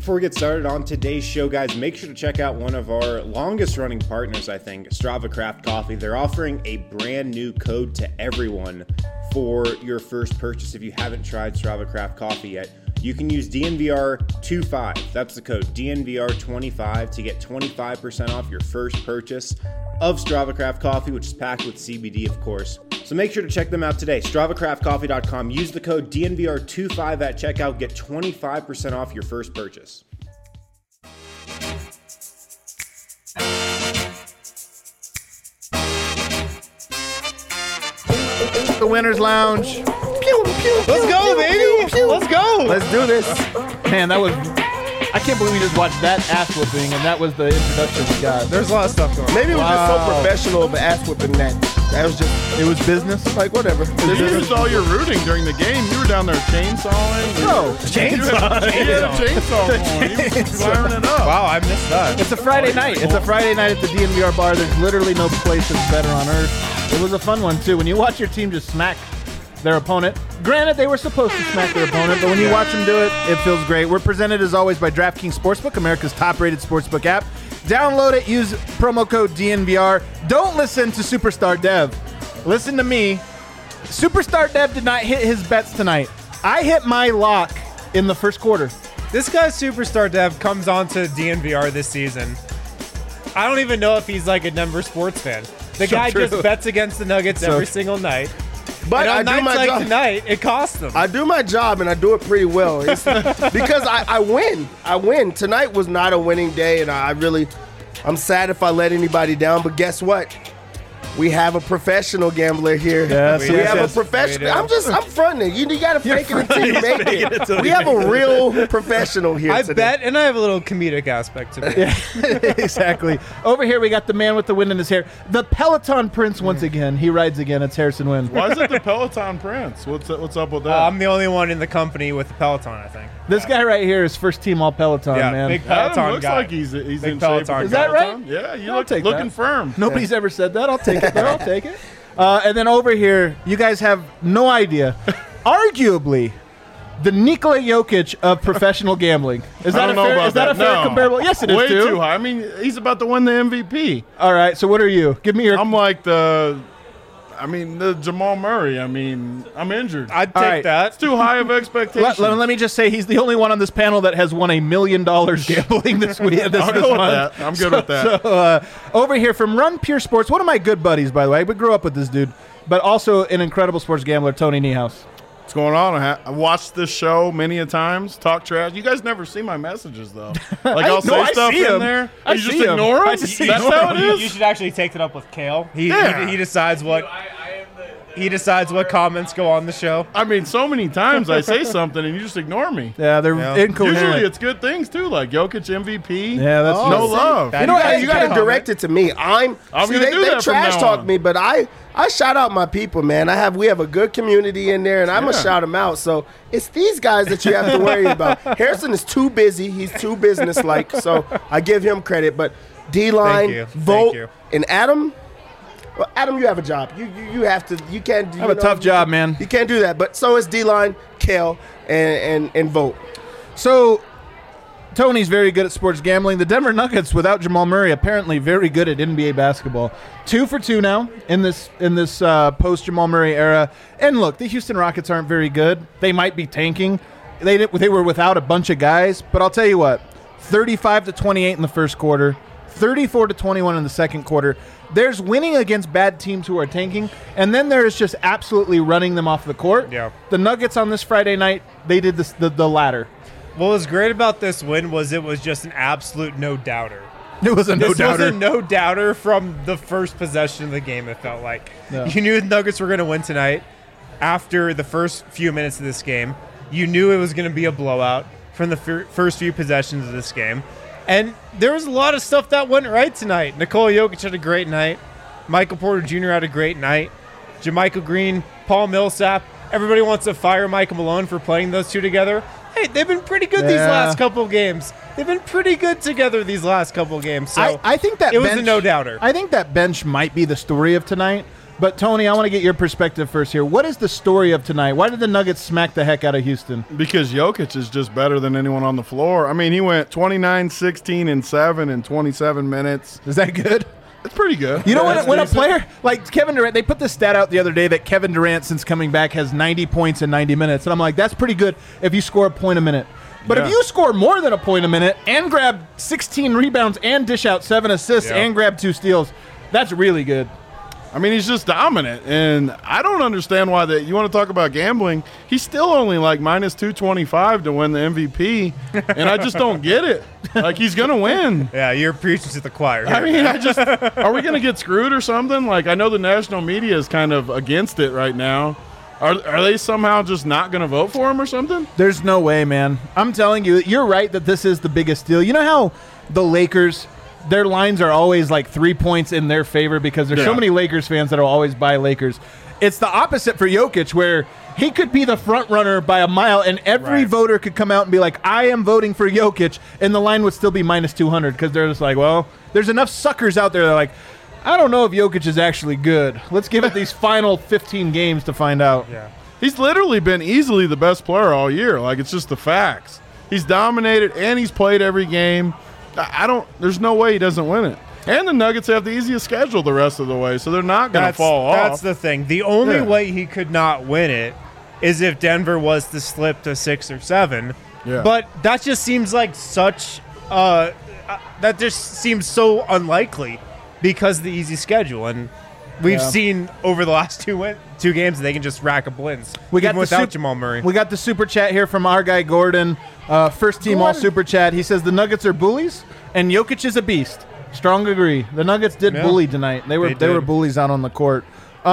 Before we get started on today's show, guys, make sure to check out one of our longest running partners, I think, Strava Craft Coffee. They're offering a brand new code to everyone for your first purchase. If you haven't tried Strava Craft Coffee yet, you can use DNVR25. That's the code, DNVR25, to get 25% off your first purchase of Strava Craft Coffee, which is packed with CBD, of course. So make sure to check them out today. StravaCraftCoffee.com. Use the code DNVR25 at checkout. Get 25% off your first purchase. The Winners Lounge. Let's go, baby. Let's go. Let's do this. Man, that was... I can't believe we just watched that ass whooping, and that was the introduction we got. There's a lot of stuff going on. Maybe it was just so professional of an ass whooping that was just, It was business. like, whatever. You saw your rooting during the game. You were down there chainsawing. No. Chainsaw. You had a chainsaw going. You were firing it up. Wow, I missed that. It's a Friday night. It's a Friday night at the DNVR bar. There's literally no place that's better on earth. It was a fun one, too. When you watch your team just smack their opponent, granted, they were supposed to smack their opponent, but when you watch them do it, it feels great. We're presented, as always, by DraftKings Sportsbook, America's top-rated sportsbook app. Download it. Use promo code DNVR. Don't listen to Superstar Dev. Listen to me. Superstar Dev did not hit his bets tonight. I hit my lock in the first quarter. This guy, Superstar Dev, comes on to DNVR this season. I don't even know if he's like a Denver sports fan. The guy true. just bets against the Nuggets every single night. But And I on do nights my like job. tonight, it costs them. I do my job, and I do it pretty well. It's because I win. I win. Tonight was not a winning day, and I'm sad if I let anybody down, but guess what? We have a professional gambler here. Yes, we yes, have yes. a professional. We do. I'm fronting it. You got to fake it until you make it. We have a real professional here I today. bet, and I have a little comedic aspect to me. Exactly. Over here, we got the man with the wind in his hair. The Peloton Prince once again. He rides again. It's Harrison Wind. Why is it the Peloton Prince? What's up with that? I'm the only one in the company with the Peloton, I think. This guy right here is first team all Peloton, Yeah, man. big Adam Peloton looks guy. like he's Big in shape. Peloton with Is that Peloton. right? Yeah, you I'll look take looking that. firm. Nobody's ever said that. I'll take it, though. I'll take it. And then over here, you guys have no idea. Arguably, the Nikola Jokic of professional gambling. Is I that don't a know fair, about is that a fair No. comparable? Yes, it is Way too. too high. I mean, he's about to win the MVP. All right. So what are you? Give me your. I'm like the Jamal Murray. I mean, I'm injured. I'd All take right. that. It's too high of expectations. let me just say he's the only one on this panel that has won $1 million gambling this week. I'll go with that. I'm good with that. So over here from Run Pure Sports, one of my good buddies, by the way. We grew up with this dude, but also an incredible sports gambler, Tony Niehaus. What's going on? I watched this show many a times. Talk trash. You guys never see my messages though. Like I'll say I stuff see in 'em. there. I You just see 'em. ignore them. I just That's ignore how 'em. it You is. should actually take that up with Kale. Yeah. He decides what he decides what comments go on the show. I mean, so many times I say something and you just ignore me. Yeah, they're incoherent. Usually it's good things too, like Jokic MVP. Yeah, that's no true. love. That- You know what? That's You a got good to direct it to me. I'm See, gonna they, do they that from trash now talk on. me, but I shout out my people, man. We have a good community in there, and I'm gonna Yeah. shout them out. So it's these guys that you have to worry about. Harrison is too busy. He's too businesslike. So I give him credit. But D-Line, Thank you. Vote, Thank you. and Adam. Well, Adam, you have a job. You have to. You can't. I have a tough job, man. You can't do that. But so is D-Line, Kale, and Vote. So Tony's very good at sports gambling. The Denver Nuggets, without Jamal Murray, apparently very good at NBA basketball. 2 for 2 now in this post Jamal Murray era. And look, the Houston Rockets aren't very good. They might be tanking. They were without a bunch of guys, but I'll tell you what: 35-28 in the first quarter, 34-21 in the second quarter. There's winning against bad teams who are tanking, and then there is just absolutely running them off the court. Yeah. The Nuggets on this Friday night, they did the latter. What was great about this win was it was just an absolute no-doubter. It was a This was no-doubter. a no-doubter from the first possession of the game, it felt like. Yeah. You knew the Nuggets were going to win tonight after the first few minutes of this game. You knew it was going to be a blowout from the first few possessions of this game. And there was a lot of stuff that went right tonight. Nikola Jokic had a great night. Michael Porter Jr. had a great night. JaMychal Green, Paul Millsap. Everybody wants to fire Michael Malone for playing those two together. Hey, they've been pretty good these last couple games. They've been pretty good together these last couple games. So I think that it was bench, a no-doubter. I think that bench might be the story of tonight. But, Tony, I want to get your perspective first here. What is the story of tonight? Why did the Nuggets smack the heck out of Houston? Because Jokic is just better than anyone on the floor. I mean, he went 29, 16, and 7 in 27 minutes. Is that good? It's pretty good. You know, Yeah, when a it's decent. player like Kevin Durant, they put this stat out the other day that Kevin Durant, since coming back, has 90 points in 90 minutes. And I'm like, that's pretty good if you score a point a minute. But if Yeah. you score more than a point a minute and grab 16 rebounds and dish out 7 assists and grab 2 steals, that's really good. I mean, he's just dominant, and I don't understand why that. You want to talk about gambling? He's still only like minus 225 to win the MVP, and I just don't get it. Like, he's gonna win. Yeah, you're preaching to the choir. I mean, are we gonna get screwed or something? Like, I know the national media is kind of against it right now. Are they somehow just not gonna vote for him or something? There's no way, man. I'm telling you, you're right that this is the biggest deal. You know how the Lakers, their lines are always like 3 points in their favor because there's so Yeah. many Lakers fans that will always buy Lakers. It's the opposite for Jokic, where he could be the front runner by a mile, and every Right. voter could come out and be like, I am voting for Jokic, and the line would still be minus 200 because they're just like, well, there's enough suckers out there that are like, I don't know if Jokic is actually good. Let's give it these final 15 games to find out. Yeah. He's literally been easily the best player all year. Like, it's just the facts. He's dominated, and he's played every game. There's no way he doesn't win it. And the Nuggets have the easiest schedule the rest of the way, so they're not going to fall off. That's the thing. The only Yeah. way he could not win it is if Denver was to slip to 6 or 7. Yeah. But that just seems like such that just seems so unlikely because of the easy schedule, and we've seen over the last two games they can just rack up wins. We got even the without Jamal Murray. We got the super chat here from our guy Gordon, first team all super chat. He says the Nuggets are bullies and Jokic is a beast. Strong agree. The Nuggets did bully tonight. They were did. bullies out on the court.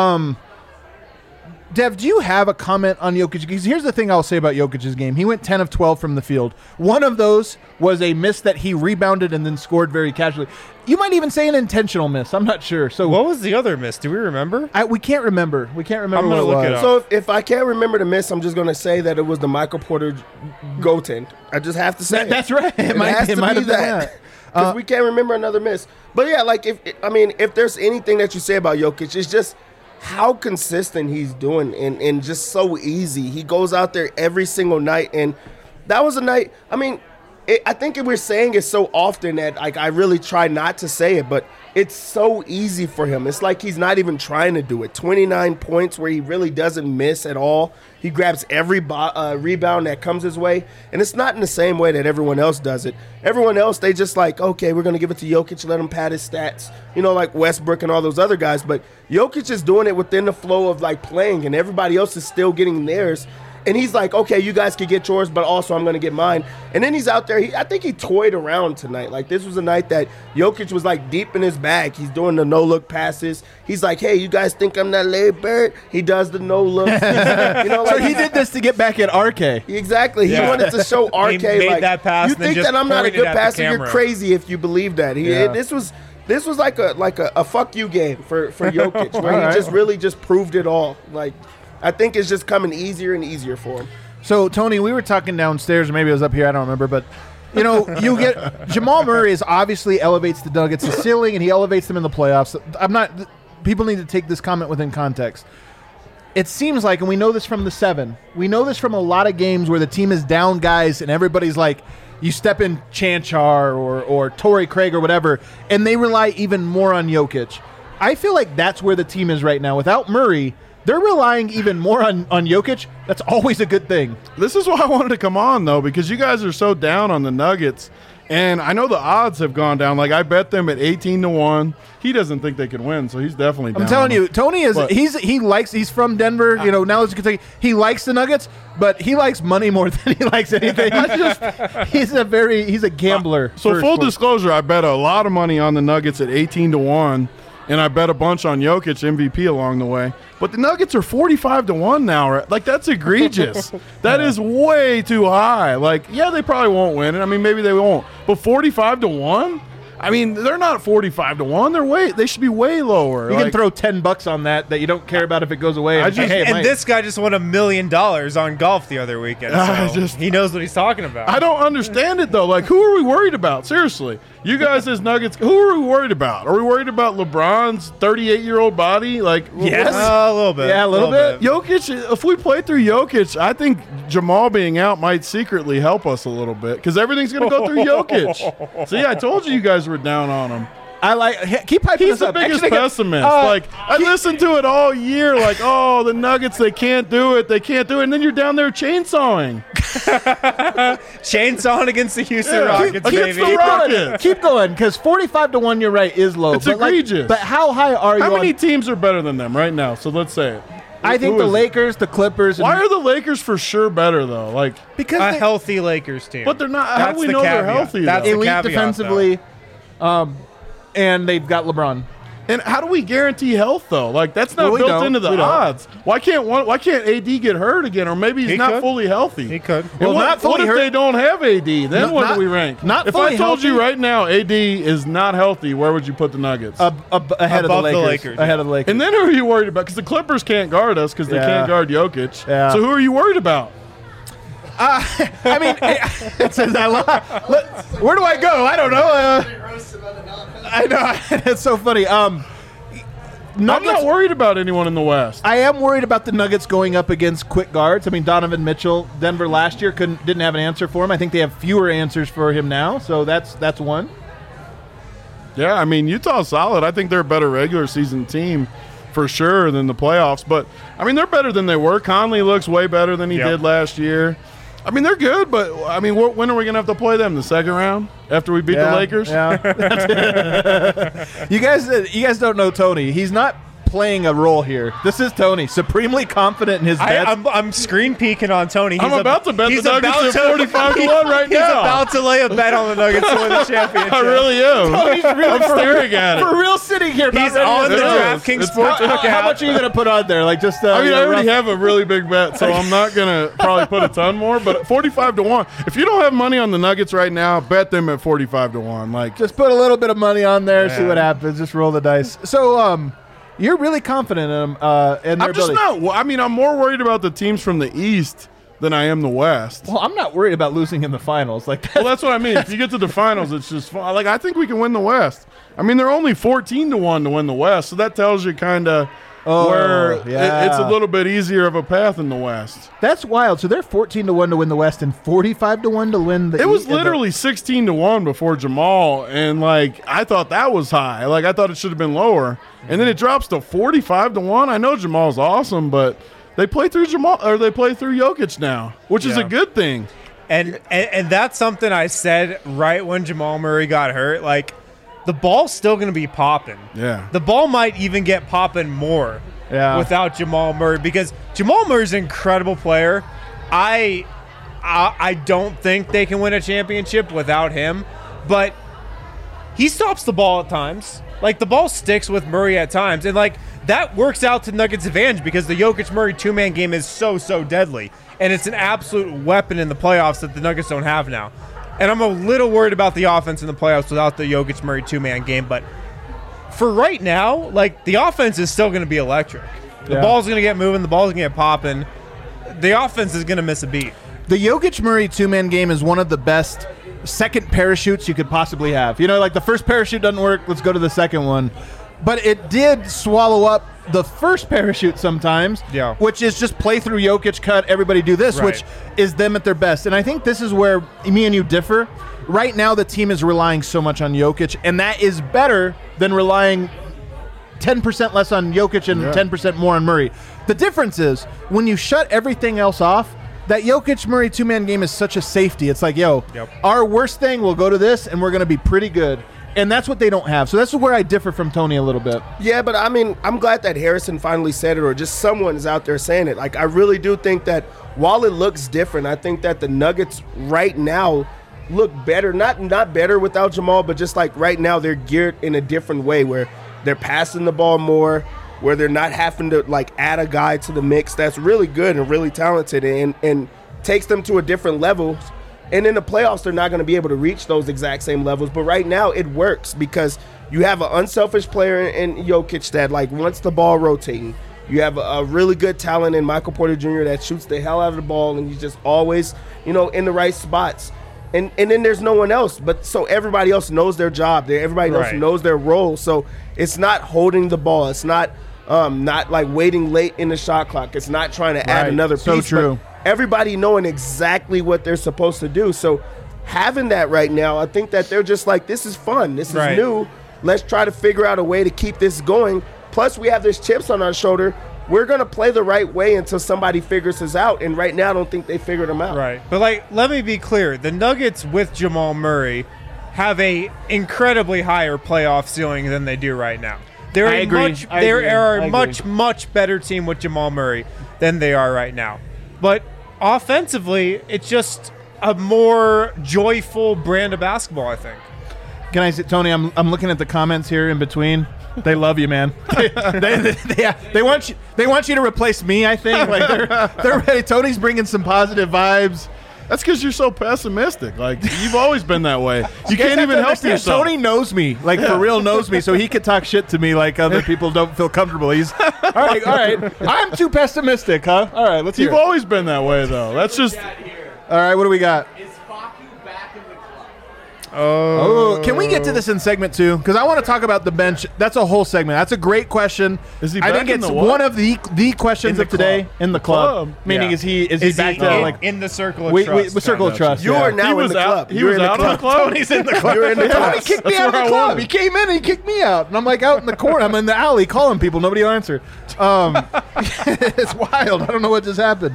Dev, do you have a comment on Jokic? Because here's the thing I'll say about Jokic's game. He went 10 of 12 from the field. One of those was a miss that he rebounded and then scored very casually. You might even say an intentional miss. I'm not sure. So What was the other miss? Do we remember? we can't remember. We can't remember I'm gonna what look it it was. up. So if I can't remember the miss, I'm just going to say that it was the Michael Porter goaltend. I just have to say it. That's right. It might has to have be been that. Because we can't remember another miss. But yeah, like if there's anything that you say about Jokic, it's just how consistent he's doing and just so easy. He goes out there every single night, and that was a night. I mean, I think we're saying it so often that like I really try not to say it, but it's so easy for him. It's like he's not even trying to do it. 29 points where he really doesn't miss at all. He grabs every rebound that comes his way, and it's not in the same way that everyone else does it. Everyone else, they just like, okay, we're going to give it to Jokic, let him pad his stats, like Westbrook and all those other guys. But Jokic is doing it within the flow of like playing, and everybody else is still getting theirs. And he's like, okay, you guys can get yours, but also I'm going to get mine. And then he's out there. I think he toyed around tonight. Like, this was a night that Jokic was, like, deep in his bag. He's doing the no-look passes. He's like, hey, you guys think I'm that Larry Bird? He does the no-look. So he did this to get back at RK. Exactly. He Yeah. wanted to show RK, He made like, that pass you and then think just that I'm not a pointed good at the passer? You're camera. crazy if you believe that. This was like a fuck you game for Jokic, where he just really just proved it all. Like, I think it's just coming easier and easier for him. So, Tony, we were talking downstairs, or maybe it was up here, I don't remember, but, you get Jamal Murray obviously elevates the Nuggets to ceiling, and he elevates them in the playoffs. People need to take this comment within context. It seems like, and we know this from the 7, we know this from a lot of games where the team is down guys, and everybody's like, you step in Chanchar or Torrey Craig or whatever, and they rely even more on Jokic. I feel like that's where the team is right now. Without Murray, they're relying even more on Jokic. That's always a good thing. This is why I wanted to come on, though, because you guys are so down on the Nuggets. And I know the odds have gone down. Like, I bet them at 18-1. He doesn't think they can win, so he's definitely down. I'm telling you, Tony is But- he's from Denver. Now as you can say, he likes the Nuggets, but he likes money more than he likes anything. He's a gambler. So for full sports. disclosure, I bet a lot of money on the Nuggets at 18-1, and I bet a bunch on Jokic MVP along the way. But the Nuggets are 45-1 now. Right? Like, that's egregious. That is way too high. Like, yeah, they probably won't win it. I mean, maybe they won't. But 45-1? I mean, they're not 45-1. They should be way lower. You can throw $10 on that you don't care about if it goes away. And this guy just won $1 million on golf the other weekend. So he knows what he's talking about. I don't understand it though. Like, who are we worried about? Seriously, you guys as Nuggets, who are we worried about? Are we worried about LeBron's 38-year-old body? Like, yes, a little bit. Yeah, a little bit. Jokic. If we play through Jokic, I think Jamal being out might secretly help us a little bit because everything's going to go through Jokic. See, I told you guys were down on him. Keep hyping He's this up. the biggest Actually, pessimist. I listened to it all year. Like, oh, the Nuggets, they can't do it. They can't do it. And then you're down there chainsawing. Chainsawing against the Houston Rockets, baby. Keep going, because 45-1, you're right, is low. It's egregious. But how high are you? How many teams are better than them right now? So let's say it. I think the Lakers, the Clippers. Why are the Lakers for sure better though? Like, because a healthy Lakers team. But they're not. How do we know they're healthy? That's the elite caveat, defensively, and they've got LeBron. And how do we guarantee health though? Like, that's not built into the odds. Why can't AD get hurt again? Or maybe he's not fully healthy. He could. Well, what if they don't have AD? Then what do we rank? If I told you right now AD is not healthy, where would you put the Nuggets? Ahead of the Lakers. Ahead of the Lakers. And then who are you worried about? Because the Clippers can't guard us because they can't guard Jokic. Yeah. So who are you worried about? I mean, it says that a lot. Where do I go? I don't know. I know. It's so funny. I'm not worried about anyone in the West. I am worried about the Nuggets going up against quick guards. I mean, Donovan Mitchell, Denver last year didn't have an answer for him. I think they have fewer answers for him now, so that's one. Yeah, I mean, Utah's solid. I think they're a better regular season team for sure than the playoffs. But, I mean, they're better than they were. Conley looks way better than he did last year. I mean, they're good, but, I mean, when are we going to have to play them? The second round? After we beat the Lakers? Yeah. You guys don't know Tony. He's not playing a role here. This is Tony, supremely confident in his bets. I'm screen peeking on Tony. I'm about to bet the Nuggets at 45-1 right now. He's about to lay a bet on the Nuggets to win the championship. I really am. Tony's really I'm staring at it. For real sitting here. He's on the DraftKings Sportsbook app. How much are you going to put on there? Like just. I mean, I already have a really big bet, so I'm not going to probably put a ton more. But 45-1. If you don't have money on the Nuggets right now, bet them at 45-1. Like, just put a little bit of money on there, see what happens. Just roll the dice. So, you're really confident in them and their ability. I'm more worried about the teams from the East than I am the West. Well, I'm not worried about losing in the finals. Well, that's what I mean. If you get to the finals, it's just fun. Like, I think we can win the West. I mean, they're only 14-1 to win the West, so that tells you kind of where it's a little bit easier of a path in the West. That's wild. So they're 14-1 to win the West and 45-1 to win the East. It was literally 16-1 before Jamal, and like I thought that was high. Like I thought it should have been lower, and then it drops to 45-1. I know Jamal's awesome, but they play through Jokic now, which is a good thing. And that's something I said right when Jamal Murray got hurt. Like, the ball's still going to be popping. Yeah. The ball might even get popping more without Jamal Murray because Jamal Murray's an incredible player. I don't think they can win a championship without him, but he stops the ball at times. Like, the ball sticks with Murray at times, and, like, that works out to Nuggets' advantage because the Jokic-Murray two-man game is so deadly, and it's an absolute weapon in the playoffs that the Nuggets don't have now. And I'm a little worried about the offense in the playoffs without the Jokic-Murray two-man game. But for right now, like, the offense is still going to be electric. The ball's going to get moving. The ball's going to get popping. The offense is going to miss a beat. The Jokic-Murray two-man game is one of the best second parachutes you could possibly have. You know, like the first parachute doesn't work. Let's go to the second one. But it did swallow up the first parachute sometimes, which is just play through Jokic, cut, everybody do this, which is them at their best. And I think this is where me and you differ. Right now, the team is relying so much on Jokic, and that is better than relying 10% less on Jokic and 10% more on Murray. The difference is when you shut everything else off, that Jokic-Murray two-man game is such a safety. It's like, our worst thing, we'll go to this, and we're going to be pretty good. And that's what they don't have. So that's where I differ from Tony a little bit. Yeah, but I mean, I'm glad that Harrison finally said it, or just someone is out there saying it. Like, I really do think that while it looks different, I think that the Nuggets right now look better. Not better without Jamal, but just like right now they're geared in a different way where they're passing the ball more, where they're not having to like add a guy to the mix that's really good and really talented and takes them to a different level And in the playoffs, they're not going to be able to reach those exact same levels. But right now, it works because you have an unselfish player in Jokic that, like, wants the ball rotating. You have a really good talent in Michael Porter Jr. that shoots the hell out of the ball, and he's just always, in the right spots. And then there's no one else. But so everybody else knows their job. Everybody else knows their role. So it's not holding the ball. It's not like waiting late in the shot clock. It's not trying to add another piece. So true. Everybody knowing exactly what they're supposed to do. So having that right now, I think that they're just like, this is fun. This is new. Let's try to figure out a way to keep this going. Plus, we have this chips on our shoulder. We're going to play the right way until somebody figures us out. And right now, I don't think they figured them out. Right. But, let me be clear. The Nuggets with Jamal Murray have a incredibly higher playoff ceiling than they do right now. They are a much better team with Jamal Murray than they are right now. But offensively, it's just a more joyful brand of basketball, I think. Can I say, Tony, I'm looking at the comments here in between. They love you, man. They want you to replace me, I think. Like they're ready. Tony's bringing some positive vibes. That's because you're so pessimistic. Like, you've always been that way. You can't even help yourself. Tony knows me, for real knows me, so he could talk shit to me like other people don't feel comfortable. He's, all right. I'm too pessimistic, huh? All right, let's hear You've always been that way, though. That's just... All right, what do we got? Is Facu back in the club? Oh, can we get to this in segment 2? Because I want to talk about the bench. That's a whole segment. That's a great question. Is he I back think in it's the what? one of the questions of today in the club. Meaning, is he back to in the circle of trust? Circle of trust. You are now in the club. He was out of the club? Tony's in the club. You're in the club. Tony kicked me out of the club. He came in and he kicked me out. And I'm like out in the corner. I'm in the alley calling people. Nobody will answer. It's wild. I don't know what just happened.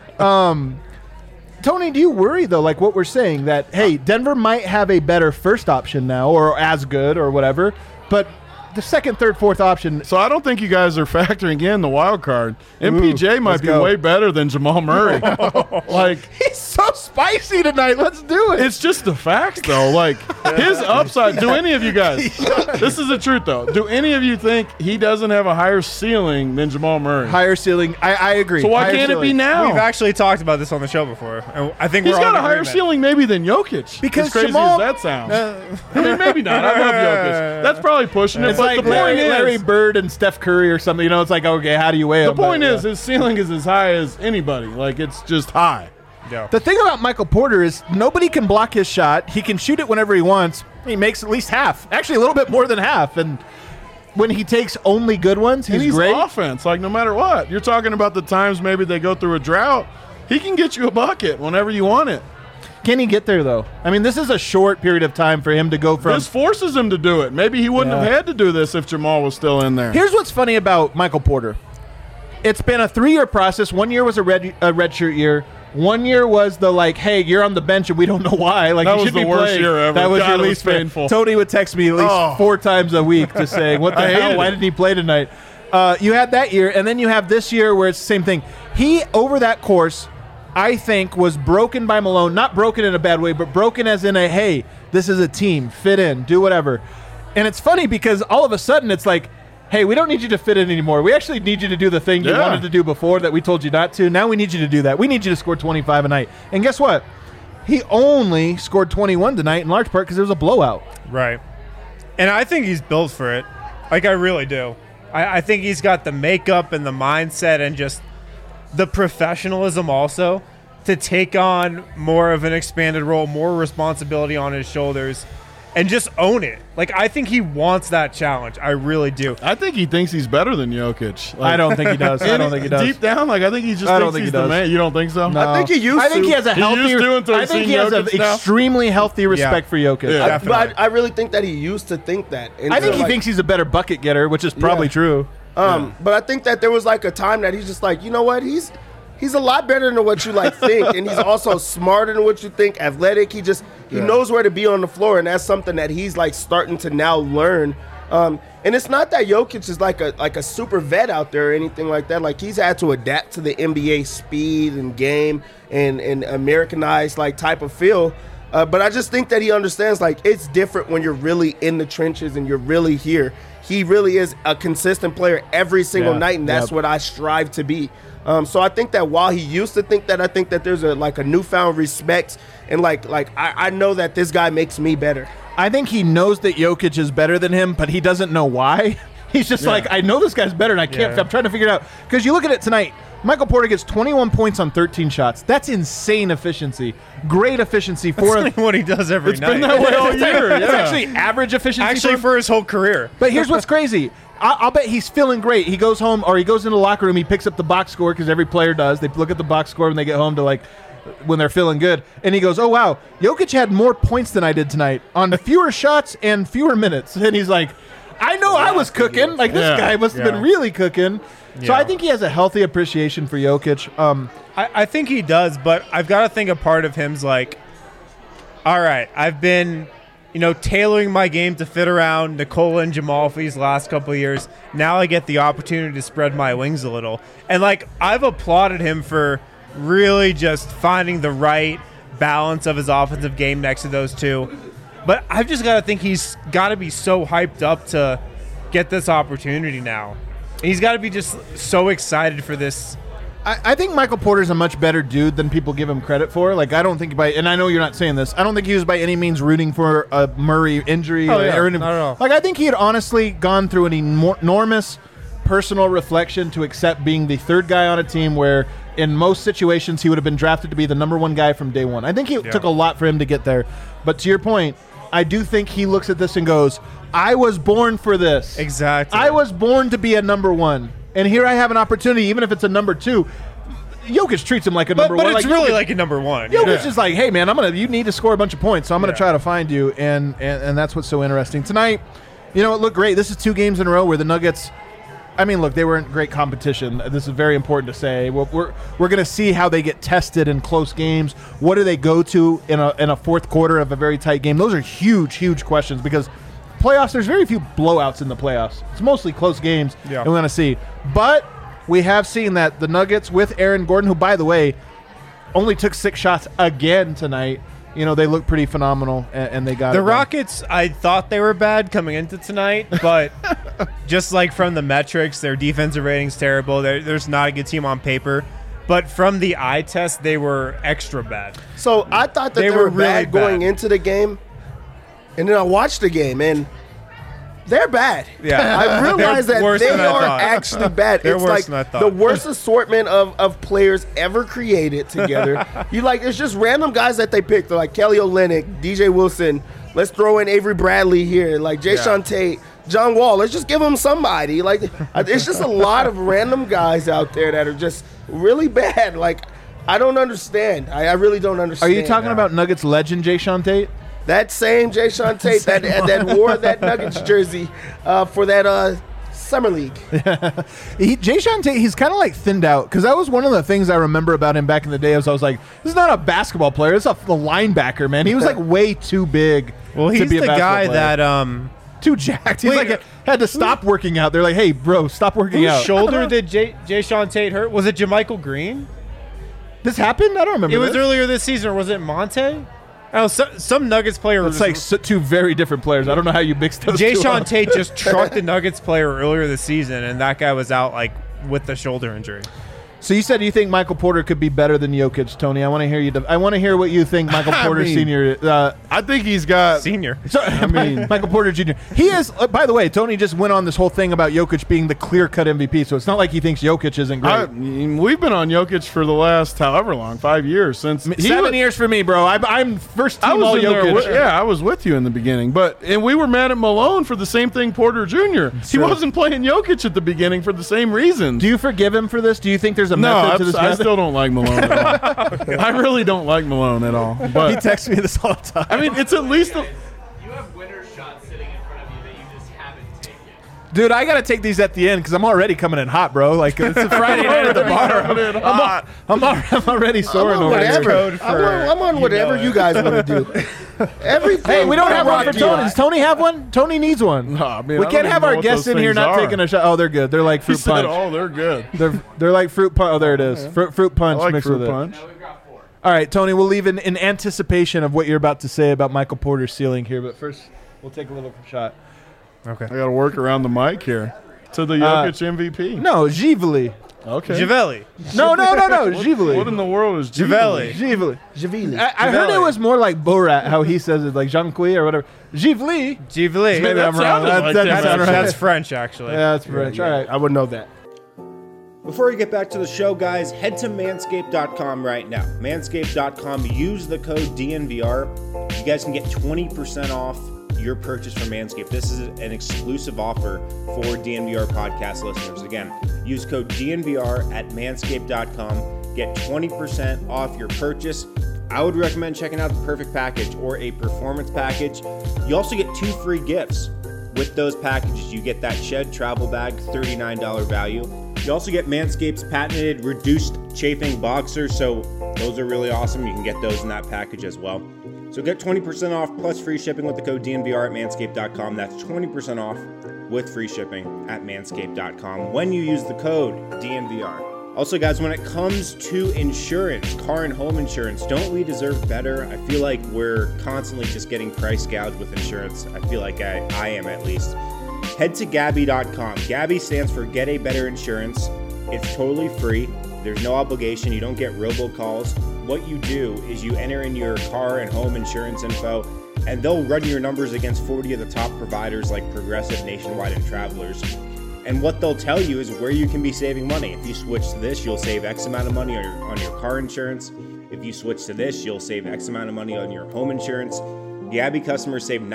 Tony, do you worry, though, like what we're saying, that, hey, Denver might have a better first option now or as good or whatever, but the second, third, fourth option. So I don't think you guys are factoring in the wild card. MPJ might be way better than Jamal Murray. He's so spicy tonight. Let's do it. It's just the facts, though. Like, his upside. Do any of you guys? This is the truth, though. Do any of you think he doesn't have a higher ceiling than Jamal Murray? Higher ceiling. I agree. So why higher can't ceiling. it be now? We've actually talked about this on the show before. And I think He's we're all got a in higher agreement. ceiling maybe than Jokic. Because as crazy Jamal- as that sounds. I mean, maybe not. I love Jokic. That's probably pushing it. It's But like the point Larry is, Bird and Steph Curry or something. It's like, okay, how do you weigh the them? point is, his ceiling is as high as anybody. Like, it's just high. Yeah. The thing about Michael Porter is nobody can block his shot. He can shoot it whenever he wants. He makes at least half. Actually, a little bit more than half. And when he takes only good ones, he's great. Offense, like no matter what. You're talking about the times maybe they go through a drought. He can get you a bucket whenever you want it. Can he get there, though? I mean, this is a short period of time for him to go from... This forces him to do it. Maybe he wouldn't have had to do this if Jamal was still in there. Here's what's funny about Michael Porter. It's been a 3-year process. 1 year was a redshirt year. 1 year was the, like, hey, you're on the bench and we don't know why. Like, That you was should the be worst playing. year ever. That was God, your it was least painful. Tony would text me at least 4 times a week just saying, what the I hell? hated Why it. didn't he play tonight? You had that year, and then you have this year where it's the same thing. He, over that course, I think, was broken by Malone. Not broken in a bad way, but broken as in a, hey, this is a team. Fit in. Do whatever. And it's funny because all of a sudden it's like, hey, we don't need you to fit in anymore. We actually need you to do the thing you wanted to do before that we told you not to. Now we need you to do that. We need you to score 25 a night. And guess what? He only scored 21 tonight in large part because it was a blowout. Right. And I think he's built for it. Like, I really do. I think he's got the makeup and the mindset and just the professionalism also to take on more of an expanded role, more responsibility on his shoulders, and just own it. Like, I think he wants that challenge. I really do. I think he thinks he's better than Jokic. I don't think he does. I don't think he does. Deep down, like, I think he just I don't thinks think he's he the does. man. You don't think so? No. I think he used I think to. he has a He healthy. used to until I he's think seen he has an Jokic now. extremely healthy respect for Jokic. Yeah. But Definitely. I really think that he used to think that. And I think so, he like, thinks he's a better bucket getter, which is probably Yeah. true. But I think that there was like a time that he's just like, you know what? He's a lot better than what you like think, and he's also smarter than what you think. Athletic. He knows where to be on the floor, and that's something that he's like starting to now learn. And it's not that Jokic is like a super vet out there or anything like that. Like, he's had to adapt to the NBA speed and game and Americanized like type of feel. But I just think that he understands, like, it's different when you're really in the trenches and you're really here. He really is a consistent player every single night, and that's what I strive to be. So I think that while he used to think that, I think that there's a newfound respect, and I know that this guy makes me better. I think he knows that Jokic is better than him, but he doesn't know why. He's just like, I know this guy's better, and I can't. I'm trying to figure it out. Because you look at it tonight, Michael Porter gets 21 points on 13 shots. That's insane efficiency. Great efficiency for That's what he does every night. It's been that way all year. It's Yeah. actually average efficiency. Actually, for his whole career. But here's what's crazy. I'll bet he's feeling great. He goes home, or he goes into the locker room, he picks up the box score, because every player does. They look at the box score when they get home to when they're feeling good. And he goes, oh, wow, Jokic had more points than I did tonight on fewer shots and fewer minutes. And he's like, I know I was cooking. Like, this guy must have been really cooking. So I think he has a healthy appreciation for Jokic. I think he does, but I've got to think a part of him's like, all right, I've been, tailoring my game to fit around Nikola and Jamal for these last couple of years. Now I get the opportunity to spread my wings a little. And, I've applauded him for really just finding the right balance of his offensive game next to those two. But I've just got to think he's got to be so hyped up to get this opportunity now. He's got to be just so excited for this. I think Michael Porter's a much better dude than people give him credit for. I don't think and I know you're not saying this, I don't think he was by any means rooting for a Murray injury. Not at all. I think he had honestly gone through an enormous personal reflection to accept being the third guy on a team where in most situations he would have been drafted to be the number one guy from day one. I think it took a lot for him to get there. But to your point, I do think he looks at this and goes, I was born for this. Exactly. I was born to be a number one. And here I have an opportunity, even if it's a number two. Jokic treats him like a number one. But it's really like a number one. Jokic is like, hey, man, you need to score a bunch of points, so I'm going to try to find you. And that's what's so interesting. Tonight, it looked great. This is 2 games in a row where the Nuggets, they weren't great competition. This is very important to say. We're going to see how they get tested in close games. What do they go to in a fourth quarter of a very tight game? Those are huge, huge questions because playoffs, there's very few blowouts in the playoffs. It's mostly close games, and we're going to see. But we have seen that the Nuggets with Aaron Gordon, who, by the way, only took 6 shots again tonight, they look pretty phenomenal, and they got the it Rockets, I thought they were bad coming into tonight, but just from the metrics, their defensive rating's terrible. There's not a good team on paper. But from the eye test, they were extra bad. So I thought that they were really bad going into the game, and then I watched the game, and they're bad. Yeah. I realized that worse they than I are thought. actually bad. They're It's worse than I thought. the worst assortment of players ever created together. It's just random guys that they picked. They're like Kelly Olynyk, DJ Wilson. Let's throw in Avery Bradley here, Jayshawn Tate, John Wall. Let's just give them somebody. It's just a lot of random guys out there that are just really bad. I don't understand. I really don't understand. Are you talking about Nuggets legend Jayshawn Tate? That same Jayshawn Tate that wore that Nuggets jersey for that Summer League. Jayshawn Tate, he's kind of thinned out, because that was one of the things I remember about him back in the day. I was like, this is not a basketball player. This is a linebacker, man. He was way too big. Well, he's to be a the guy player. that too jacked. He's had to stop working out. They're like, hey, bro, stop working out. Whose shoulder did Jayshawn Tate hurt? Was it JaMychal Green? This happened? I don't remember. It was this. earlier this season, or was it Monte? Oh, some Nuggets player. It's 2 very different players. I don't know how you mixed those two Jayshawn up. Tate just trucked the Nuggets player earlier this season, and that guy was out with the shoulder injury. So you said you think Michael Porter could be better than Jokic, Tony. I want to hear you. I want to hear what you think Michael Porter Sr. I think he's got Senior. Michael Porter Jr. He is, by the way, Tony just went on this whole thing about Jokic being the clear-cut MVP, so it's not like he thinks Jokic isn't great. We've been on Jokic for the last however long, 5 years. 7 years for me, bro. I'm first team all Jokic. I was with you in the beginning. And we were mad at Malone for the same thing Porter Jr. He wasn't playing Jokic at the beginning for the same reasons. Do you forgive him for this? Do you think there's a method to this? I still don't like Malone at all. I really don't like Malone at all. But he texts me this all the time. It's at least... You have winner shots sitting in front of you that you just haven't taken. Dude, I got to take these at the end because I'm already coming in hot, bro. It's a Friday night at the bar. I'm already soaring over here. I'm on whatever you guys want to do. Everything. Hey, we don't have one for Tony. Does Tony have one? Tony needs one. Nah, man, we can't have our guests in here not taking a shot. Oh, they're good. They're like fruit punch. Oh, they're good. They're like fruit punch. Oh, there it is. Fruit punch I like mixed fruit with punch. Now we've got 4. All right, Tony, we'll leave in anticipation of what you're about to say about Michael Porter's ceiling here, but first we'll take a little shot. Okay. I got to work around the mic here. To the Jokic MVP. No, Givali. Okay. Javelli. No, Givali. What in the world is Javelli. Givali. Javili. I heard it was more like Borat, how he says it, like Jean-Qui or whatever. Givali. Givali. Maybe I'm wrong. sounded like That him, doesn't sound right. That's French, actually. Yeah, that's French. All right. I would know that. Before we get back to the show, guys, head to manscaped.com right now. Manscaped.com, use the code DNVR. You guys can get 20% off your purchase from Manscaped. This is an exclusive offer for DNVR podcast listeners. Again, use code DNVR at manscaped.com. Get 20% off your purchase. I would recommend checking out the Perfect Package or a Performance Package. You also get 2 free gifts with those packages. You get that Shed travel bag, $39 value. You also get Manscaped's patented reduced chafing boxers, so those are really awesome. You can get those in that package as well. So get 20% off plus free shipping with the code DNVR at manscaped.com. That's 20% off with free shipping at manscaped.com when you use the code DNVR. Also, guys, when it comes to insurance, car and home insurance, don't we deserve better? I feel like we're constantly just getting price gouged with insurance. I feel like I am at least. Head to Gabi.com. Gabi stands for Get a Better Insurance. It's totally free. There's no obligation. You don't get robocalls. What you do is you enter in your car and home insurance info, and they'll run your numbers against 40 of the top providers like Progressive, Nationwide, and Travelers. And what they'll tell you is where you can be saving money. If you switch to this, you'll save X amount of money on your car insurance. If you switch to this, you'll save X amount of money on your home insurance. Gabi customers save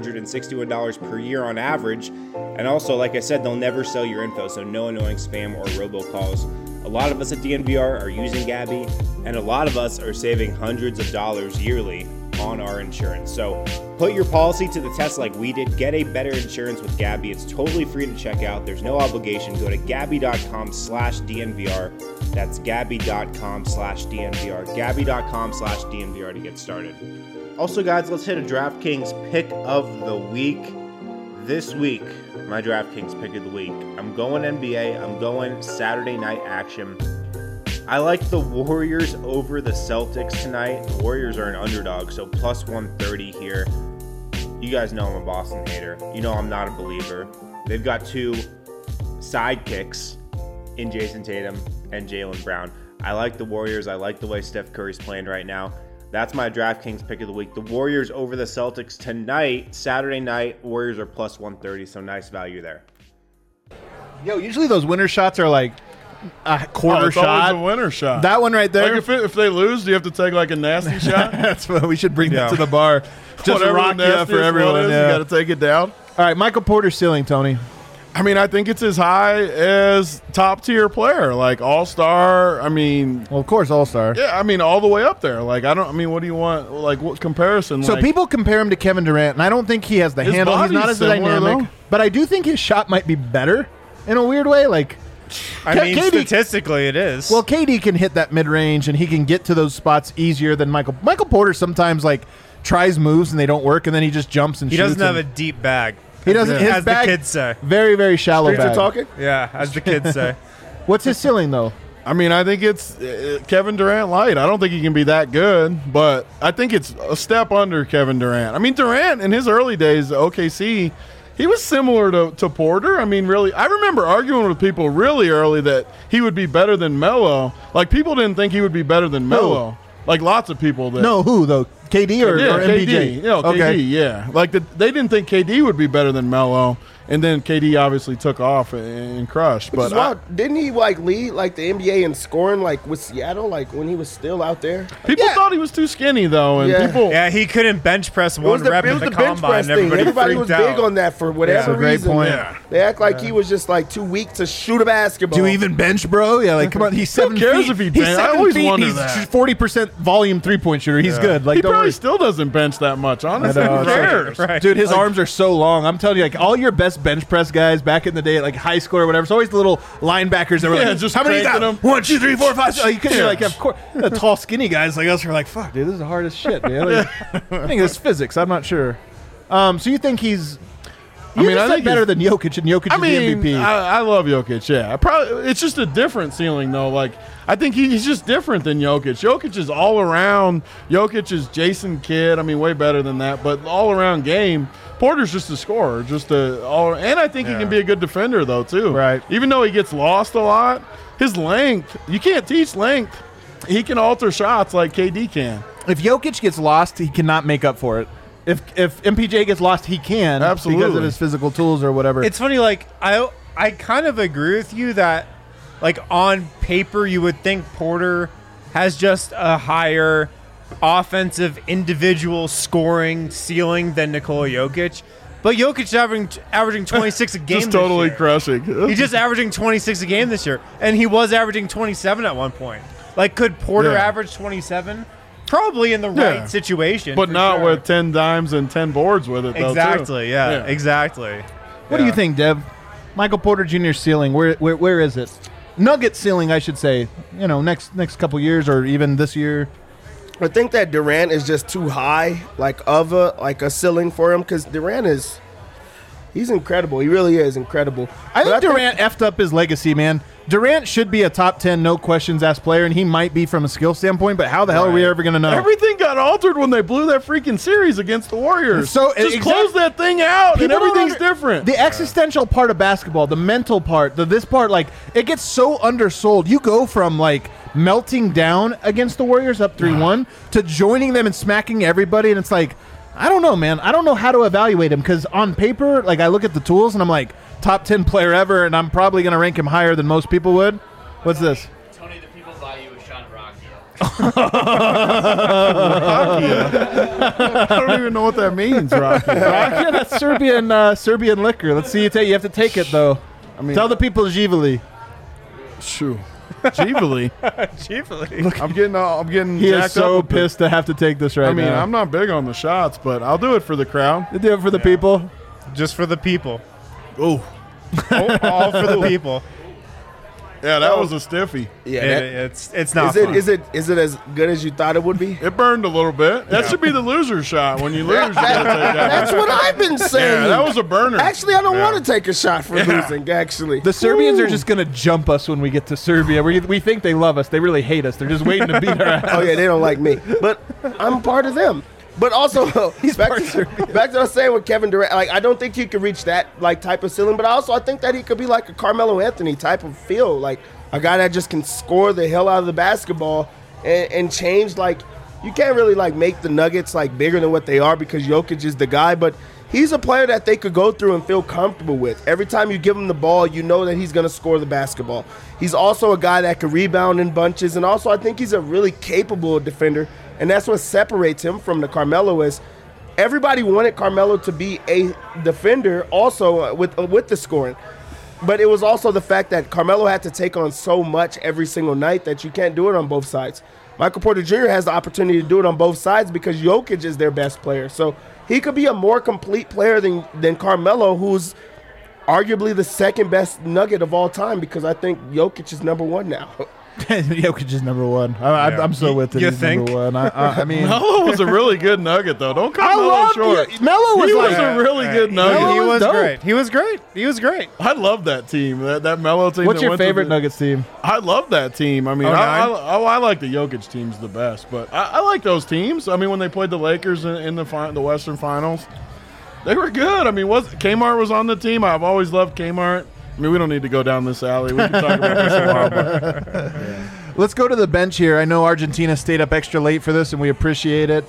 $961 per year on average. And also, like I said, they'll never sell your info, so no annoying spam or robocalls. A lot of us at DNVR are using Gabi, and a lot of us are saving hundreds of dollars yearly on our insurance. So put your policy to the test like we did. Get a better insurance with Gabi. It's totally free to check out. There's no obligation. Go to Gabi.com/DNVR. That's Gabi.com/DNVR. Gabi.com/DNVR to get started. Also, guys, let's hit a DraftKings pick of the week. This week, my DraftKings pick of the week. I'm going NBA. I'm going Saturday night action. I like the Warriors over the Celtics tonight. The Warriors are an underdog, so plus 130 here. You guys know I'm a Boston hater. You know I'm not a believer. They've got 2 sidekicks in Jason Tatum and Jaylen Brown. I like the Warriors. I like the way Steph Curry's playing right now. That's my DraftKings pick of the week. The Warriors over the Celtics tonight, Saturday night. Warriors are plus 130, so nice value there. Yo, usually those winner shots are like a quarter it's shot. always a winner shot. That one right there. Like if they lose, do you have to take like a nasty shot? That's what we should bring that to the bar. Just Whatever rock the you up for nastiest everyone. one is, Yeah. You got to take it down. All right, Michael Porter's ceiling, Tony. I mean, I think it's as high as top tier player, like all-star. I mean, Well, of course, all-star. yeah, I mean, all the way up there. Like, what do you want? Like, what comparison? So like, people compare him to Kevin Durant, and I don't think he has the His handle. He's not body's as similar, dynamic. though. But I do think his shot might be better in a weird way. Like, I mean, KD statistically, it is. well, KD can hit that mid-range, and he can get to those spots easier than Michael. Michael Porter sometimes, like, tries moves, and they don't work, and then he just jumps and he shoots. doesn't have a and deep bag. He doesn't. His As the bag, kids say. very, very shallow Streets are bag. talking? Yeah, as the kids say. What's his ceiling, though? I mean, I think it's Kevin Durant light. I don't think he can be that good, but I think it's a step under Kevin Durant. I mean, Durant in his early days at OKC, he was similar to Porter. I mean, really, I remember arguing with people really early that he would be better than Melo. Like, people didn't think he would be better than Melo. Like, lots of people that. No, who, though? KD or KD. MPJ? No, KD, yeah. Like, they didn't think KD would be better than Melo. And then KD obviously took off and crushed. Which is But wild. Didn't he like lead like the NBA in scoring like with Seattle like when he was still out there? people thought he was too skinny, though. And Yeah. people. Yeah, he couldn't bench press It one was the, rep it at was the the bench combine. press And thing. Everybody freaked was out. big on that for whatever That's a great reason. point. Yeah. They act like he was just like too weak to shoot a basketball. Do you even bench, bro? Yeah, like, come on. He's 7 cares feet. if he He's bench? I 7 always feet. wonder He's that. 40% volume three-point shooter. He's good. Like, He don't probably worry. still doesn't bench that much, honestly. I know, Who it's like- cares? Right. Dude, his arms are so long. I'm telling you, like, all your best bench press guys back in the day at, like, high school or whatever, it's always the little linebackers that were Yeah, like, just how many you got? cranking 'em. 1, 2, 3, 4, 5, 6. You're Yeah. like, of course. The tall, skinny guys like us are like, fuck, dude, this is the hardest shit, man. Like, I think it's physics. I'm not sure. So you think he's You I just said think better he's- than Jokic, and Jokic I is mean, the MVP. I love Jokic. Yeah, probably it's just a different ceiling though. Like I think he's just different than Jokic. Jokic is all around. Jokic is Jason Kidd. I mean, way better than that. But all around game. Porter's just a scorer, and I think he can be a good defender though too. Right. Even though he gets lost a lot, his length, you can't teach length. He can alter shots like KD can. If Jokic gets lost, he cannot make up for it. If MPJ gets lost, he can. Absolutely. Because of his physical tools or whatever. It's funny, like I kind of agree with you that, like on paper, you would think Porter has just a higher offensive individual scoring ceiling than Nikola Jokic, but Jokic is averaging 26 a game. Just totally this year. crushing. He's just averaging 26 a game this year, and he was averaging 27 at one point. Like, could Porter Yeah. average 27? Probably in the right Yeah. situation, but for not sure. with 10 dimes and 10 boards with it though. Exactly. Too. Yeah. Exactly. What do you think, Deb? Michael Porter Jr.'s ceiling, where is it? Nugget ceiling, I should say. You know, next couple years or even this year. I think that Durant is just too high, like a ceiling for him, because he's incredible. He really is incredible. I But think Durant effed up his legacy, man. Durant should be a top 10, no questions asked player, and he might be from a skill standpoint, but how the hell are we ever going to know? Everything got altered when they blew that freaking series against the Warriors. So, just exact- close that thing out, and People don't everything's under- different. The existential part of basketball, the mental part, this part, like, it gets so undersold. You go from, like, melting down against the Warriors up 3-1 to joining them and smacking everybody, and it's like, I don't know, man. I don't know how to evaluate him because on paper, like, I look at the tools and I'm like, top 10 player ever, and I'm probably going to rank him higher than most people would. What's this? Tony, the people value is Sean Rocky. I don't even know what that means, Rocky. Yeah, that's Serbian liquor. Let's see you take. You have to take it though. I mean, Tell the people Živeli. shoo. Gively. Chiefly. I'm getting He jacked is so up with pissed to have to take this right I mean, now. I'm not big on the shots, but I'll do it for the crowd. You do it for the people. Just for the people. Oh, All for the people. yeah, that was a stiffy. Yeah, It's not fun. is it as good as you thought it would be? It burned a little bit. That should be the loser shot. When you lose, you gotta take that. That's what I've been saying. Yeah, that was a burner. Actually, I don't want to take a shot for losing. Actually, The Serbians are just going to jump us when we get to Serbia. We think they love us. They really hate us. They're just waiting to beat our ass. oh yeah, they don't like me, but I'm part of them. But also, back to what I was saying with Kevin Durant. Like, I don't think he could reach that like type of ceiling. But I think that he could be like a Carmelo Anthony type of feel, like a guy that just can score the hell out of the basketball and change. Like, you can't really like make the Nuggets like bigger than what they are because Jokic is the guy. But he's a player that they could go through and feel comfortable with. Every time you give him the ball, you know that he's going to score the basketball. He's also a guy that can rebound in bunches, and also I think he's a really capable defender. And that's what separates him from the Carmelo is everybody wanted Carmelo to be a defender also with the scoring. But it was also the fact that Carmelo had to take on so much every single night that you can't do it on both sides. Michael Porter Jr. has the opportunity to do it on both sides because Jokic is their best player. So he could be a more complete player than Carmelo, who's arguably the second best Nugget of all time because I think Jokic is number one now. Jokic is number one. I'm so with it. You He's think? number one. I mean, Melo was a really good Nugget, though. Don't cut I Melo love short. Melo was He like was a really good Nugget. Melo He was was dope. great. He was great. He was great. I love that team. That Melo team. What's that your went to favorite the- Nuggets team? I love that team. I mean, 09? I like the Jokic teams the best, but I like those teams. I mean, when they played the Lakers in the Western Finals, they were good. I mean, Kmart was on the team. I've always loved Kmart. I mean, we don't need to go down this alley. We can talk about this a while. But Let's go to the bench here. I know Argentina stayed up extra late for this, and we appreciate it.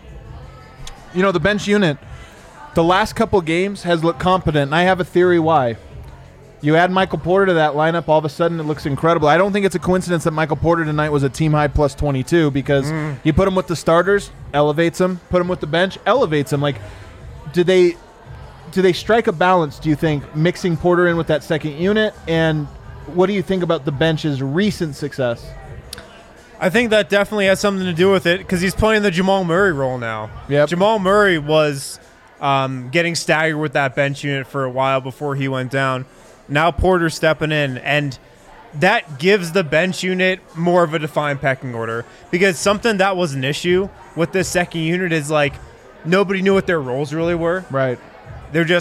The bench unit, the last couple games has looked competent, and I have a theory why. You add Michael Porter to that lineup, all of a sudden it looks incredible. I don't think it's a coincidence that Michael Porter tonight was a team-high plus 22 because you put him with the starters, elevates him. Put him with the bench, elevates him. Like, do they strike a balance, do you think, mixing Porter in with that second unit? And what do you think about the bench's recent success? I think that definitely has something to do with it because he's playing the Jamal Murray role now. Yep. Jamal Murray was getting staggered with that bench unit for a while before he went down. Now Porter's stepping in, and that gives the bench unit more of a defined pecking order because something that was an issue with this second unit is like nobody knew what their roles really were. Right. They're just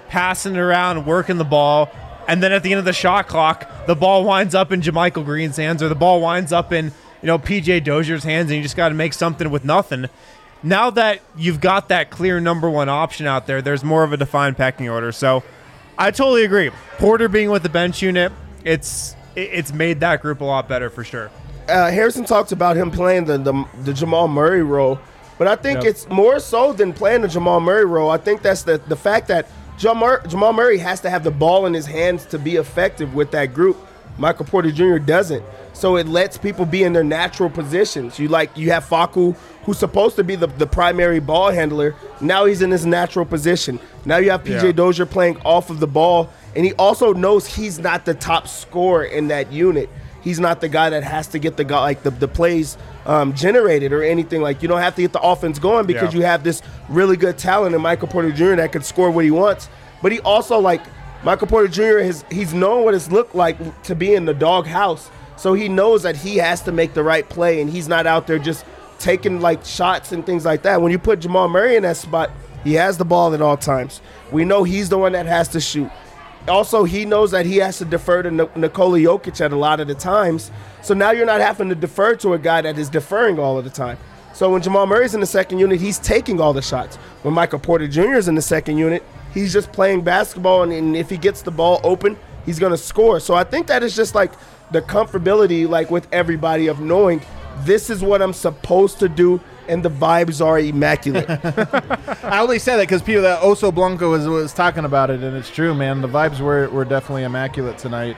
passing it around, working the ball, and then at the end of the shot clock, the ball winds up in JaMychal Green's hands, or the ball winds up in PJ Dozier's hands, and you just got to make something with nothing. Now that you've got that clear number one option out there, there's more of a defined pecking order. So I totally agree. Porter being with the bench unit, it's made that group a lot better for sure. Harrison talked about him playing the Jamal Murray role, but I think it's more so than playing the Jamal Murray role. I think that's the fact that Jamal Murray has to have the ball in his hands to be effective with that group. Michael Porter Jr. doesn't. So it lets people be in their natural positions. You have Facu, who's supposed to be the primary ball handler. Now he's in his natural position. Now you have PJ Dozier playing off of the ball, and he also knows he's not the top scorer in that unit. He's not the guy that has to get the plays generated or anything. Like, you don't have to get the offense going because you have this really good talent in Michael Porter Jr. that can score what he wants. But he also, Michael Porter Jr., he's known what it's looked like to be in the doghouse. So he knows that he has to make the right play, and he's not out there just taking shots and things like that. When you put Jamal Murray in that spot, he has the ball at all times. We know he's the one that has to shoot. Also, he knows that he has to defer to Nikola Jokic at a lot of the times. So now you're not having to defer to a guy that is deferring all of the time. So when Jamal Murray's in the second unit, he's taking all the shots. When Michael Porter Jr. is in the second unit, he's just playing basketball, and if he gets the ball open, he's going to score. So I think that is just the comfortability with everybody of knowing this is what I'm supposed to do, and the vibes are immaculate. I only say that because people that Oso Blanco was talking about it, and it's true, man. The vibes were definitely immaculate tonight.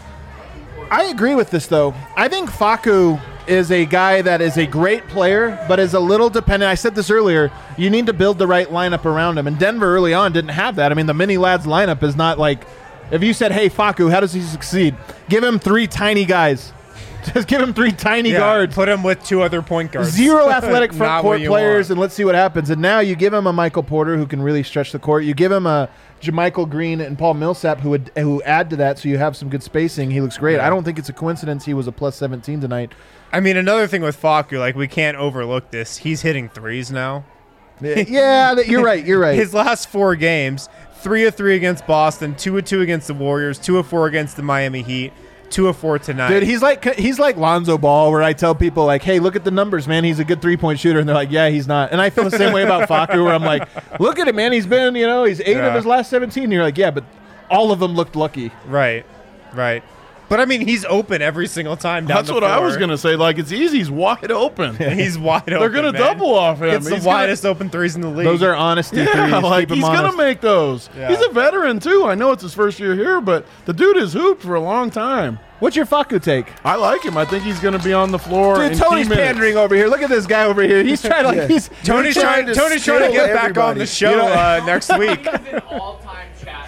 I agree with this, though. I think Facu is a guy that is a great player, but is a little dependent. I said this earlier. You need to build the right lineup around him, and Denver early on didn't have that. I mean, the mini lads lineup is not if you said, hey, Facu, how does he succeed? Give him 3 tiny guys. Just give him 3 tiny guards. Put him with 2 other point guards. 0 athletic front court players, want. and let's see what happens. And now you give him a Michael Porter who can really stretch the court. You give him a JaMychal Green and Paul Millsap who add to that, so you have some good spacing. He looks great. I don't think it's a coincidence he was a plus 17 tonight. I mean, another thing with Facu, we can't overlook this. He's hitting threes now. Yeah, you're right. You're right. His last 4 games, 3 of 3 against Boston, 2 of 2 against the Warriors, 2 of 4 against the Miami Heat, 2 of 4 tonight. Dude, he's like Lonzo Ball, where I tell people hey, look at the numbers, man. He's a good 3-point shooter, and they're like, yeah, he's not. And I feel the same way about Facu, where I'm like, look at him, man. He's been, he's 8 of his last 17. And you're like, yeah, but all of them looked lucky. Right. But I mean, he's open every single time down That's the what floor. I was gonna say. It's easy. He's wide open. He's wide open. They're gonna double off him. It's the widest open threes in the league. Those are honesty threes. Keep him he's honest. gonna make those. Yeah. He's a veteran too. I know it's his first year here, but the dude has hooped for a long time. What's your Facu take? I like him. I think he's going to be on the floor. Dude, in Tony's key minutes. pandering over here. Look at this guy over here. He's trying Tony's trying to get back on the show next week. He's an all-time chat.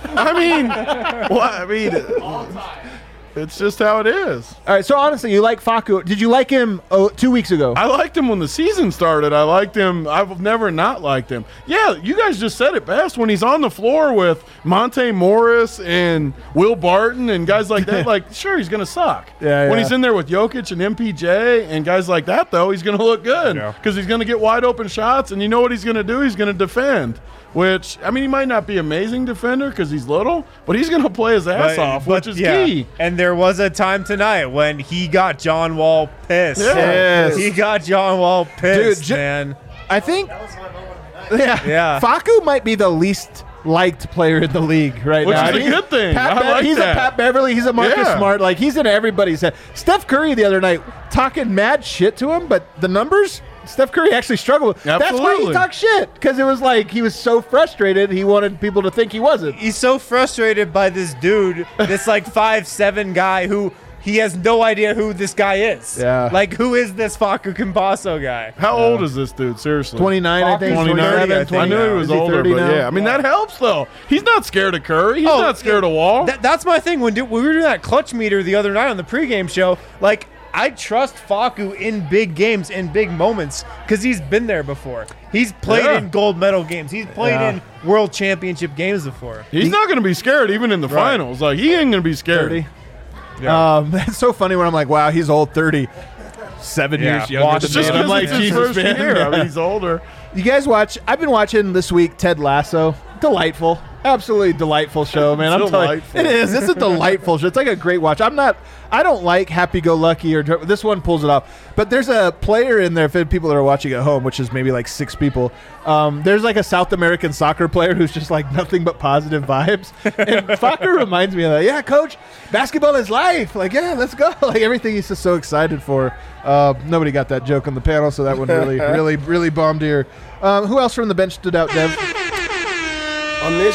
I mean, All time. it's just how it is. All right, so honestly, you like Facu. Did you like him 2 weeks ago? I liked him when the season started. I liked him. I've never not liked him. Yeah, you guys just said it best. When he's on the floor with Monte Morris and Will Barton and guys like that, sure, he's going to suck. Yeah. When he's in there with Jokic and MPJ and guys like that, though, he's going to look good because he's going to get wide open shots, and you know what he's going to do? He's going to defend. Which, I mean, he might not be an amazing defender because he's little, but he's going to play his ass off, which is key. And there was a time tonight when he got John Wall pissed. Yes. He got John Wall pissed, Dude, man. I think Yeah. Facu might be the least liked player in the league right Which now. is a good thing. He's a Pat Beverly. He's a Marcus Smart. He's in everybody's head. Steph Curry the other night talking mad shit to him, but the numbers, Steph Curry actually struggled. That's why he talked shit, because it was he was so frustrated he wanted people to think he wasn't. He's so frustrated by this dude, this 5'7" guy who he has no idea who this guy is. Yeah. Who is this Facu Campasso guy? How old is this dude, seriously? 29, I think. 29. 30, I knew he was older, 30 but now? yeah. I mean, that helps, though. He's not scared of Curry. He's not scared of Wall. That's my thing. When we were doing that clutch meter the other night on the pregame show, I trust Facu in big games, in big moments, because he's been there before. He's played in gold medal games. He's played in world championship games before. He's not going to be scared even in the finals. He ain't going to be scared. 30. It's so funny when I'm like, wow, he's old, 30. 7 years younger It's than just me. And I'm like, it's his Jesus, first man. year. I mean, he's older. You guys watch? I've been watching this week Ted Lasso. Delightful. Absolutely delightful show, man. I'm telling you, Delightful. it is. It's a delightful show. It's like a great watch. I don't like happy-go-lucky or this one pulls it off. But there's a player in there, for people that are watching at home, which is maybe like 6 people. There's like a South American soccer player who's just like nothing but positive vibes. And Faku reminds me of that. Yeah, coach, basketball is life. Like, yeah, let's go. Like everything he's just so excited for. Nobody got that joke on the panel, so that one really bombed here. Who else from the bench stood out, Dev? On this,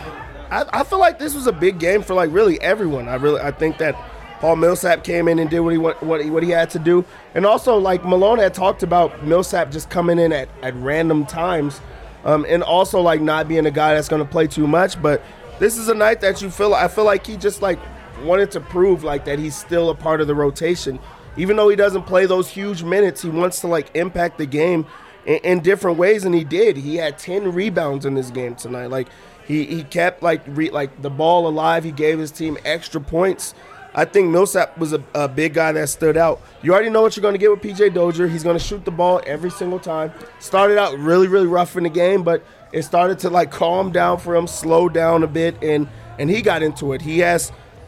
I feel like this was a big game for like really everyone. I think that Paul Millsap came in and did what he had to do, and also like Malone had talked about Millsap just coming in at random times, and also like not being a guy that's going to play too much. But this is a night that I feel like he just like wanted to prove like that he's still a part of the rotation, even though he doesn't play those huge minutes. He wants to like impact the game in different ways, and he did. He had 10 rebounds in this game tonight. Like he kept like the ball alive. He gave his team extra points. I think Millsap was a big guy that stood out. You already know what you're going to get with P.J. Dozier. He's going to shoot the ball every single time. Started out really, really rough in the game, but it started to like calm down for him, slow down a bit, and he got into it. He has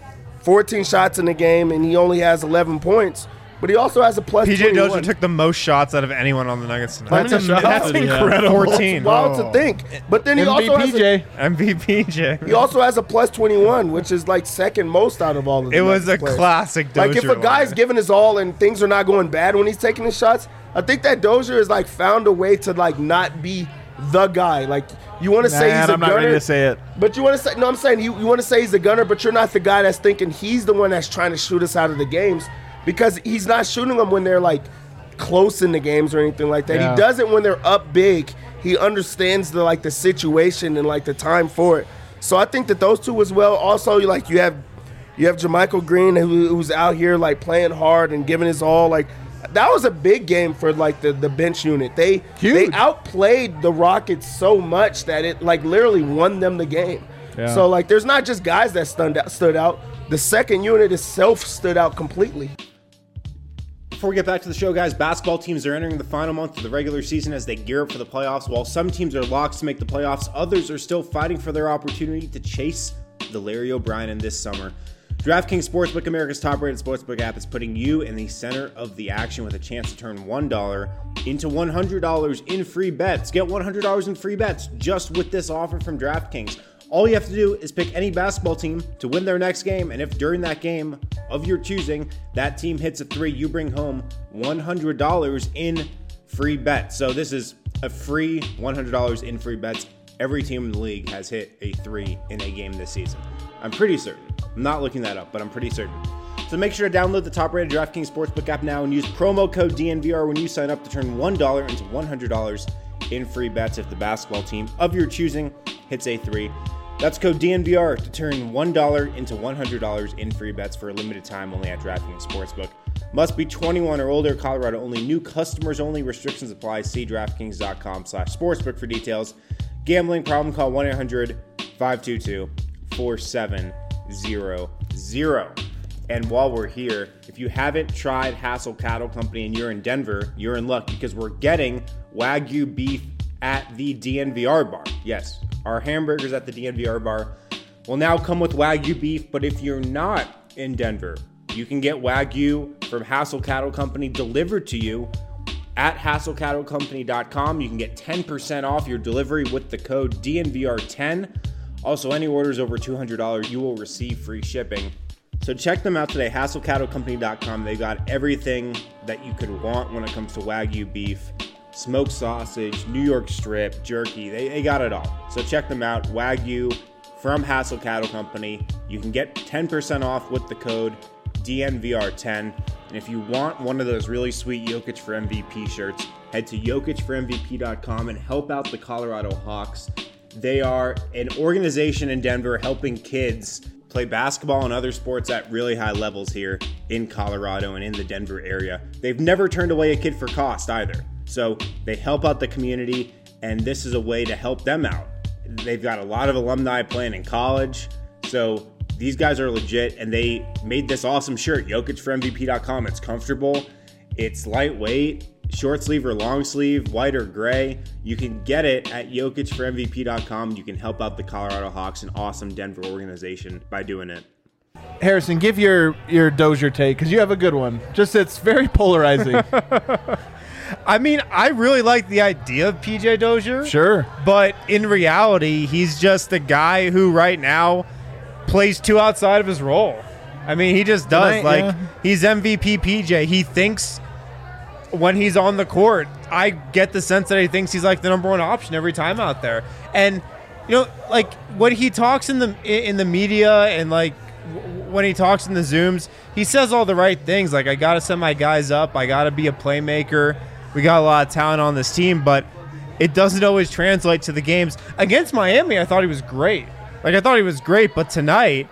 14 shots in the game, and he only has 11 points. But he also has a plus PJ 21. Dozier took the most shots out of anyone on the Nuggets tonight. That's incredible. 14. It's wild to think. But then he also has MVPJ. he also has a plus 21, which is like second most out of all of them. It was a classic Dozier. Like if a guy's giving his all and things are not going bad when he's taking his shots, I think that Dozier has like found a way to like not be the guy. Like you want to say he's a I'm gunner, not ready to say it. but you want to say no. I'm saying you want to say he's a gunner, but you're not the guy that's thinking he's the one that's trying to shoot us out of the games. Because he's not shooting them when they're like close in the games or anything like that. Yeah. He does it when they're up big. He understands the situation and like the time for it. So I think that those two as well. Also, you have JaMychal Green who's out here like playing hard and giving his all. Like that was a big game for like the bench unit. They outplayed the Rockets so much that it like literally won them the game. Yeah. So like there's not just guys that stood out. The second unit itself stood out completely. Before we get back to the show, guys, basketball teams are entering the final month of the regular season as they gear up for the playoffs. While some teams are locked to make the playoffs, others are still fighting for their opportunity to chase the Larry O'Brien this summer. DraftKings Sportsbook, America's top-rated sportsbook app, is putting you in the center of the action with a chance to turn $1 into $100 in free bets. Get $100 in free bets just with this offer from DraftKings. All you have to do is pick any basketball team to win their next game, and if during that game of your choosing, that team hits a 3, you bring home $100 in free bets. So this is a free $100 in free bets. Every team in the league has hit a 3 in a game this season. I'm pretty certain. I'm not looking that up, but I'm pretty certain. So make sure to download the top-rated DraftKings Sportsbook app now and use promo code DNVR when you sign up to turn $1 into $100 in free bets if the basketball team of your choosing hits a 3. That's code DNVR to turn $1 into $100 in free bets for a limited time only at DraftKings Sportsbook. Must be 21 or older, Colorado only, new customers only, restrictions apply. See DraftKings.com/sportsbook for details. Gambling problem, call 1-800-522-4700. And while we're here, if you haven't tried Hassel Cattle Company and you're in Denver, you're in luck because we're getting Wagyu beef at the DNVR bar. Yes, our hamburgers at the DNVR bar will now come with Wagyu beef, but if you're not in Denver, you can get Wagyu from Hassel Cattle Company delivered to you at HassleCattleCompany.com. You can get 10% off your delivery with the code DNVR10. Also, any orders over $200, you will receive free shipping. So check them out today, HassleCattleCompany.com. They got everything that you could want when it comes to Wagyu beef. Smoked sausage, New York strip, jerky, they got it all. So check them out, Wagyu from Hassel Cattle Company. You can get 10% off with the code DNVR10. And if you want one of those really sweet Jokic for MVP shirts, head to JokicForMVP.com and help out the Colorado Hawks. They are an organization in Denver helping kids play basketball and other sports at really high levels here in Colorado and in the Denver area. They've never turned away a kid for cost either. So they help out the community, and this is a way to help them out. They've got a lot of alumni playing in college, so these guys are legit, and they made this awesome shirt, JokicForMVP.com. It's comfortable, it's lightweight, short sleeve or long sleeve, white or gray. You can get it at jokicformvp.com. You can help out the Colorado Hawks, an awesome Denver organization, by doing it. Harrison, give your Dozier take because you have a good one. Just it's very polarizing. I mean, I really like the idea of PJ Dozier. Sure. But in reality, he's just a guy who right now plays too outside of his role. I mean, he just does. He's MVP PJ. He thinks when he's on the court, I get the sense that he thinks he's like the number one option every time out there. And, like when he talks in the media and like when he talks in the Zooms, he says all the right things. Like, I got to set my guys up. I got to be a playmaker. We got a lot of talent on this team, but it doesn't always translate to the games. Against Miami, I thought he was great. But tonight,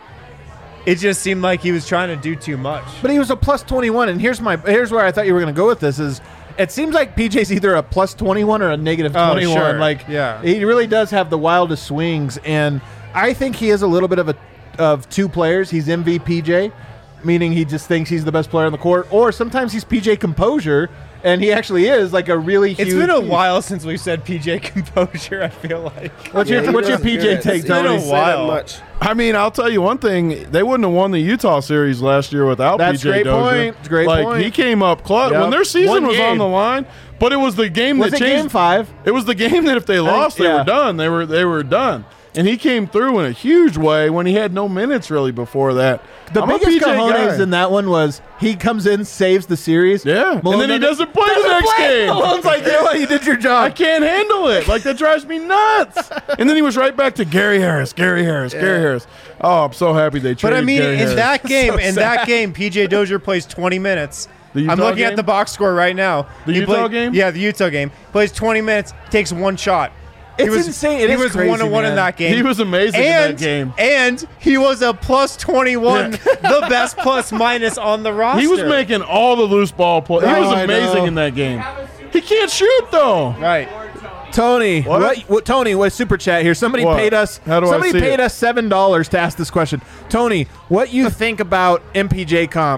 it just seemed like he was trying to do too much. But he was a plus 21, and here's where I thought you were going to go with this is it seems like PJ's either a plus 21 or a negative 21. Sure. He really does have the wildest swings, and I think he is a little bit of two players. He's MVPJ, meaning he just thinks he's the best player on the court, or sometimes he's PJ Composure, and he actually is like a really huge. It's been a while since we've said PJ Composure, I feel like. What's your PJ take, Tony? It's been a while. Much. I mean, I'll tell you one thing. They wouldn't have won the Utah series last year without That's PJ Dozier. Great point. He came up clutch Yep. when their season One was game. on the line. But it was the game Was that it changed. game 5? It was the game that if they lost, they yeah. were done. They were done. And he came through in a huge way when he had no minutes really before that. The I'm a biggest PJ cojones guy. in that one was he comes in, saves the series. Yeah, Malone and then he doesn't play the next game. Malone's like, you know what? You did your I job. can't handle it. Like, that drives me nuts. And then he was right back to Gary Harris. Gary Harris. Oh, I'm so happy they traded But I mean, Gary Harris. that game, PJ Dozier plays 20 minutes. The I'm Utah looking game? at the box score right now. The He Utah played- game? Yeah, the Utah game. Plays 20 minutes, takes one shot. It's insane. It he is was crazy, 1-1 man. in that game. He was amazing in that game. And he was a plus 21, the best plus minus on the roster. He was making all the loose ball plays. He Oh, was I amazing know. in that game. He can't shoot, though. Right. Tony, What? Tony, what super chat here? Somebody What? paid us. How do I somebody see paid it? us $7 to ask this question. Tony, what you think about MPJ comp?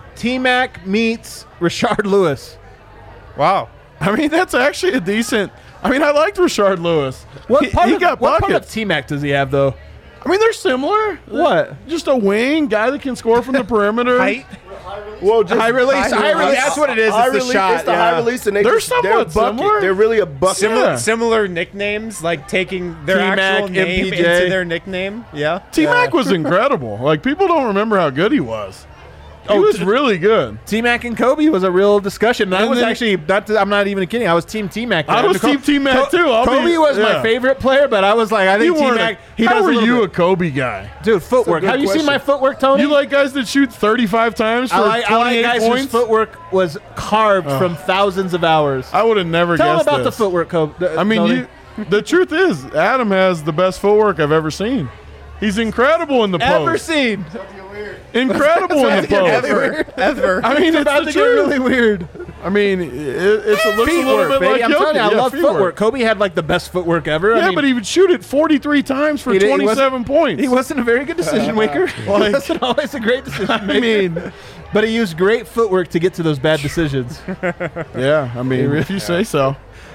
T-Mac meets Rashard Lewis. Wow. I mean, that's actually a decent. I mean, I liked Rashard Lewis. What He part got what part of buckets. T-Mac does he have though? I mean, they're similar. What? Just a wing guy that can score from the perimeter. Height. Well, just High release. That's what it is. High It's the release, shot. It's the yeah. high release, and They're they're somewhat a bucket. similar. They're really a bucket. Yeah. Similar nicknames, like taking their T-Mac, actual name MPJ. into their nickname. Yeah. T-Mac was incredible. Like, people don't remember how good he was. He was really good. T-Mac and Kobe was a real discussion. I And was then- actually I'm not even kidding. I was Team T-Mac. I was Team T-Mac, too. Kobe was my favorite player, but I was like, I You think weren't T-Mac. a, how were you a Kobe guy? dude? Footwork. good Have you seen question. my footwork, Tony? You like guys that shoot 35 times for I like 28 guys whose points? footwork was carved from thousands of hours. I would have never Tell them guessed about the this. footwork, Kobe. I mean, Tony. the truth is, Adam has the best footwork I've ever seen. He's incredible in the ever post. seen? Incredible in the post. Ever. I mean, it's About the to get truth. really weird. I mean, it looks a little Footwork, bit baby. like I'm telling you, I Jokic. love Yeah, footwork. Kobe had like the best footwork ever. Yeah, I mean, but he would shoot it 43 times for he wasn't- 27 points. He wasn't a very good decision maker. He wasn't always a great decision maker. I mean, but he used great footwork to get to those bad decisions. yeah, I mean, if you say so.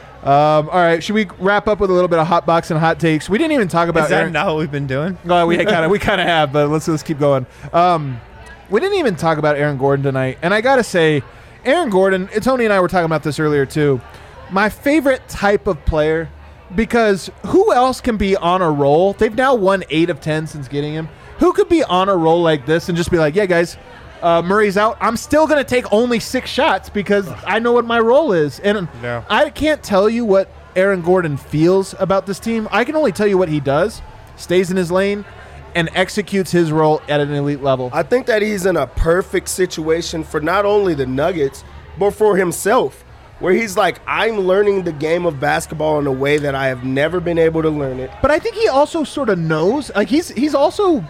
All right, should we wrap up with a little bit of hot box and hot takes? We didn't even talk about Is that Aaron. not what we've been doing? Well, we kind of have, but let's keep going. We didn't even talk about Aaron Gordon tonight, and I gotta say, Aaron Gordon. Tony and I were talking about this earlier too. My favorite type of player, because who else can be on a roll? They've now won 8 of 10 since getting him. Who could be on a roll like this and just be like, yeah, guys, Murray's out. I'm still going to take only 6 shots because I know what my role is. And Yeah. I can't tell you what Aaron Gordon feels about this team. I can only tell you what he does, stays in his lane, and executes his role at an elite level. I think that he's in a perfect situation for not only the Nuggets, but for himself, where he's like, I'm learning the game of basketball in a way that I have never been able to learn it. But I think he also sort of knows. Like he took the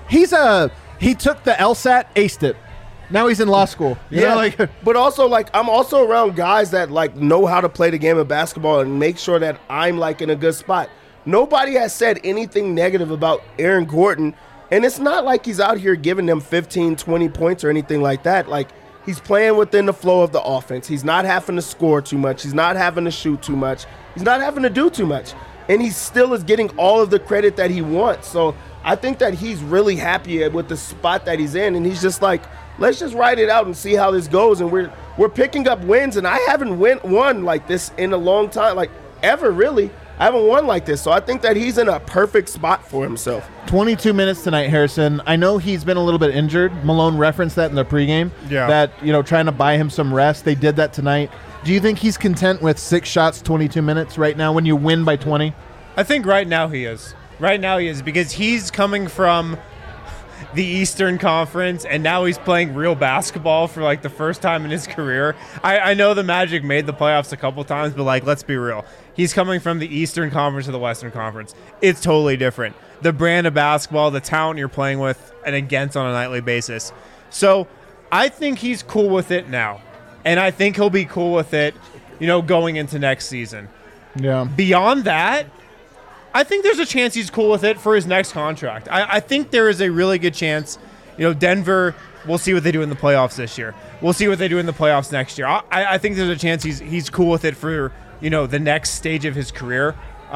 LSAT, aced it. Now he's in law school. You know, like but also like I'm also around guys that like know how to play the game of basketball and make sure that I'm like in a good spot. Nobody has said anything negative about Aaron Gordon, and it's not like he's out here giving them 15, 20 points or anything like that. Like He's playing within the flow of the offense. He's not having to score too much. He's not having to shoot too much. He's not having to do too much. And he still is getting all of the credit that he wants. So I think that he's really happy with the spot that he's in. And he's just like, let's just ride it out and see how this goes. And we're picking up wins. And I haven't won like this in a long time, like ever really. I haven't won like this. So I think that he's in a perfect spot for himself. 22 minutes tonight, Harrison. I know he's been a little bit injured. Malone referenced that in the pregame. Yeah. That, trying to buy him some rest. They did that tonight. Do you think he's content with 6 shots, 22 minutes right now when you win by 20? I think right now he is. Right now he is, because he's coming from the Eastern Conference, and now he's playing real basketball for like the first time in his career. I know the Magic made the playoffs a couple times, but like, let's be real. He's coming from the Eastern Conference to the Western Conference. It's totally different. The brand of basketball, the talent you're playing with and against on a nightly basis. So I think he's cool with it now. And I think he'll be cool with it, going into next season. Yeah. Beyond that, I think there's a chance he's cool with it for his next contract. I think there is a really good chance, Denver, we'll see what they do in the playoffs this year. We'll see what they do in the playoffs next year. I think there's a chance he's cool with it for, the next stage of his career.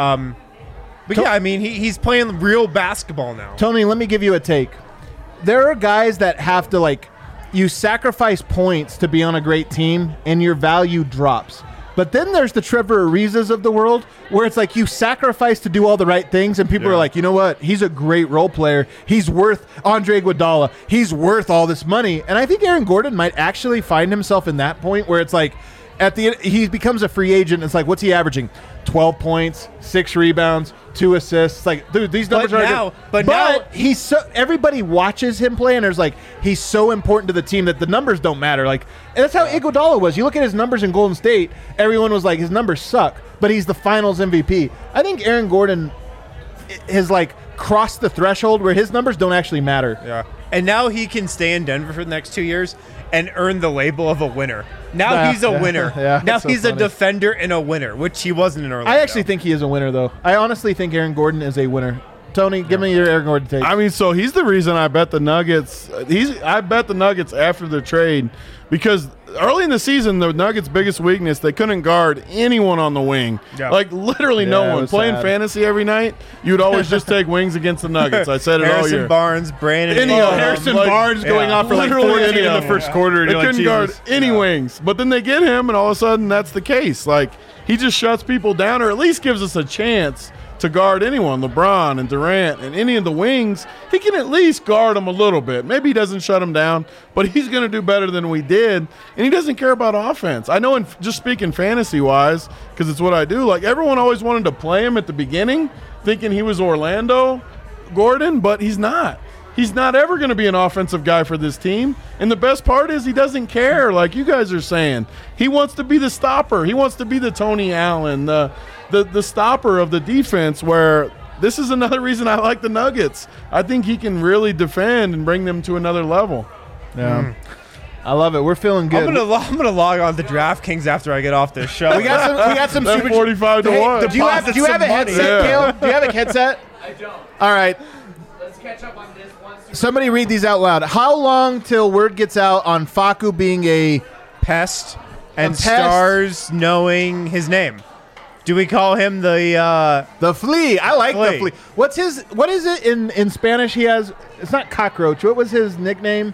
But yeah, I mean, he's playing real basketball now. Tony, let me give you a take. There are guys that have to, you sacrifice points to be on a great team, and your value drops. But then there's the Trevor Arizas of the world, where it's like you sacrifice to do all the right things, and people are like, you know what? He's a great role player. He's worth Andre Iguodala. He's worth all this money. And I think Aaron Gordon might actually find himself in that point where it's like, at the end, he becomes a free agent. It's like, what's he averaging? 12 points, 6 rebounds, 2 assists. It's like, dude, these numbers are good. But now he's so, everybody watches him play, and there's like, he's so important to the team that the numbers don't matter. Like, and that's how Iguodala was. You look at his numbers in Golden State, everyone was like, his numbers suck, but he's the Finals MVP. I think Aaron Gordon has crossed the threshold where his numbers don't actually matter. Yeah. And now he can stay in Denver for the next 2 years and earn the label of a winner. Now he's a winner. Now he's a defender and a winner, which he wasn't in Orlando. I actually think he is a winner, though. I honestly think Aaron Gordon is a winner. Tony, give me your Aaron Gordon take. I mean, so he's the reason I bet the Nuggets. I bet the Nuggets after the trade because early in the season, the Nuggets' biggest weakness, they couldn't guard anyone on the wing. Yeah. Like literally no one. Playing fantasy every night, you'd always just take wings against the Nuggets. I said it all year. Harrison Barnes, Brandon. Harrison Barnes going off for 40 in the first quarter. They couldn't guard any wings. But then they get him, and all of a sudden that's the case. Like he just shuts people down, or at least gives us a chance to guard anyone, LeBron and Durant and any of the wings. He can at least guard them a little bit. Maybe he doesn't shut them down, but he's going to do better than we did, and he doesn't care about offense. I know, just speaking fantasy-wise, because it's what I do, like everyone always wanted to play him at the beginning, thinking he was Orlando Gordon, but he's not. He's not ever going to be an offensive guy for this team. And the best part is he doesn't care, like you guys are saying. He wants to be the stopper. He wants to be the Tony Allen, the stopper of the defense, where this is another reason I like the Nuggets. I think he can really defend and bring them to another level. Yeah. I love it. We're feeling good. I'm gonna log on to DraftKings after I get off this show. we got some That's super 45 to 1. Do you have a headset, Caleb? Do you have a headset? I don't. All right. Let's catch up on this one. Somebody read these out loud. How long till word gets out on Facu being a pest and pest? stars knowing his name? Do we call him the flea? I like the Flea. flea. What is it in Spanish? He has. It's not cockroach. What was his nickname?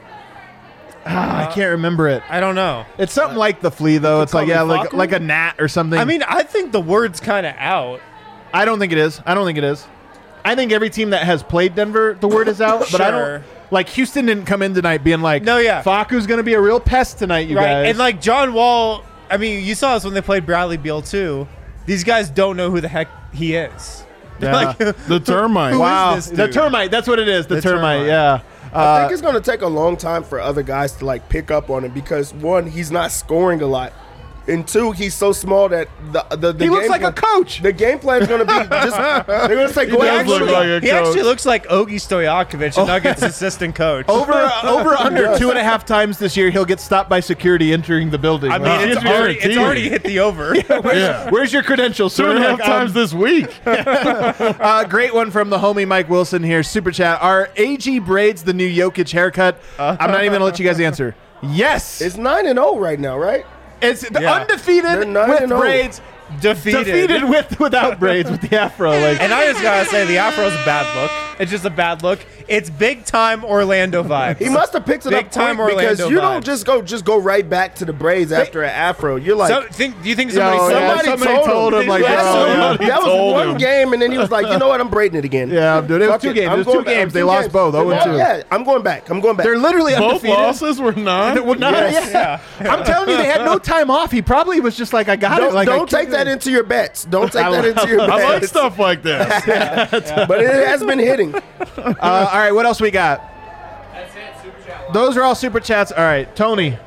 I can't remember it. I don't know. It's something like the flea, though. It's like Facu? like a gnat or something. I mean, I think the word's kind of out. I don't think it is. I think every team that has played Denver, the word is out. But I Sure. don't. Like Houston didn't come in tonight being like, No, yeah. Facu's going to be a real pest tonight, you Right. guys. And like John Wall, I mean, you saw this when they played Bradley Beal too. These guys don't know who the heck he is. Yeah. Like, The termite. Who is wow, this the dude? termite. That's what it is. The termite. termite. Yeah. I think it's going to take a long time for other guys to pick up on him because one, he's not scoring a lot, and two, he's so small that the He looks like a coach. The game plan is going to be just they're going to say go does look ahead. like a he coach. actually looks like Ogie Stojakovic, Nuggets assistant coach. Over under 2.5 times this year, he'll get stopped by security entering the building. I mean, it's already hit the over. Where's your credentials, sir? 2.5 times this week. Great one from the homie Mike Wilson here. Super chat. Are AG braids the new Jokic haircut? I'm not even going to let you guys answer. Yes. It's 9-0 right now, right? It's Yeah. undefeated They're 9-0. with braids. Defeated. Without braids with the afro. Like, And I just gotta say, the afro's a bad look. It's just a bad look. It's big time Orlando vibes. He must have picked it Big up time quick because Orlando you don't vibes. just go right back to the braids after an afro. You're like, Do you think somebody Yo, said yeah, that? somebody told him, like, Yeah, bro, so somebody that was told one him. game, and then he was like, you know what, I'm braiding it again. yeah, dude. It was Fuck 2 it. games. I'm It was 2 going back. games. They 2 lost games. both. 0-2. Yeah, I'm going back. They're literally Both undefeated. losses were not. Well, no, Yes. yeah. I'm telling you, they had no time off. He probably was just like, I got it. Like, Don't take that into your bets. Don't take that into your bets. I like stuff like this. But it has been hitting. All right, what else we got? That's it. Super chat. Those are all super chats. All right, Tony.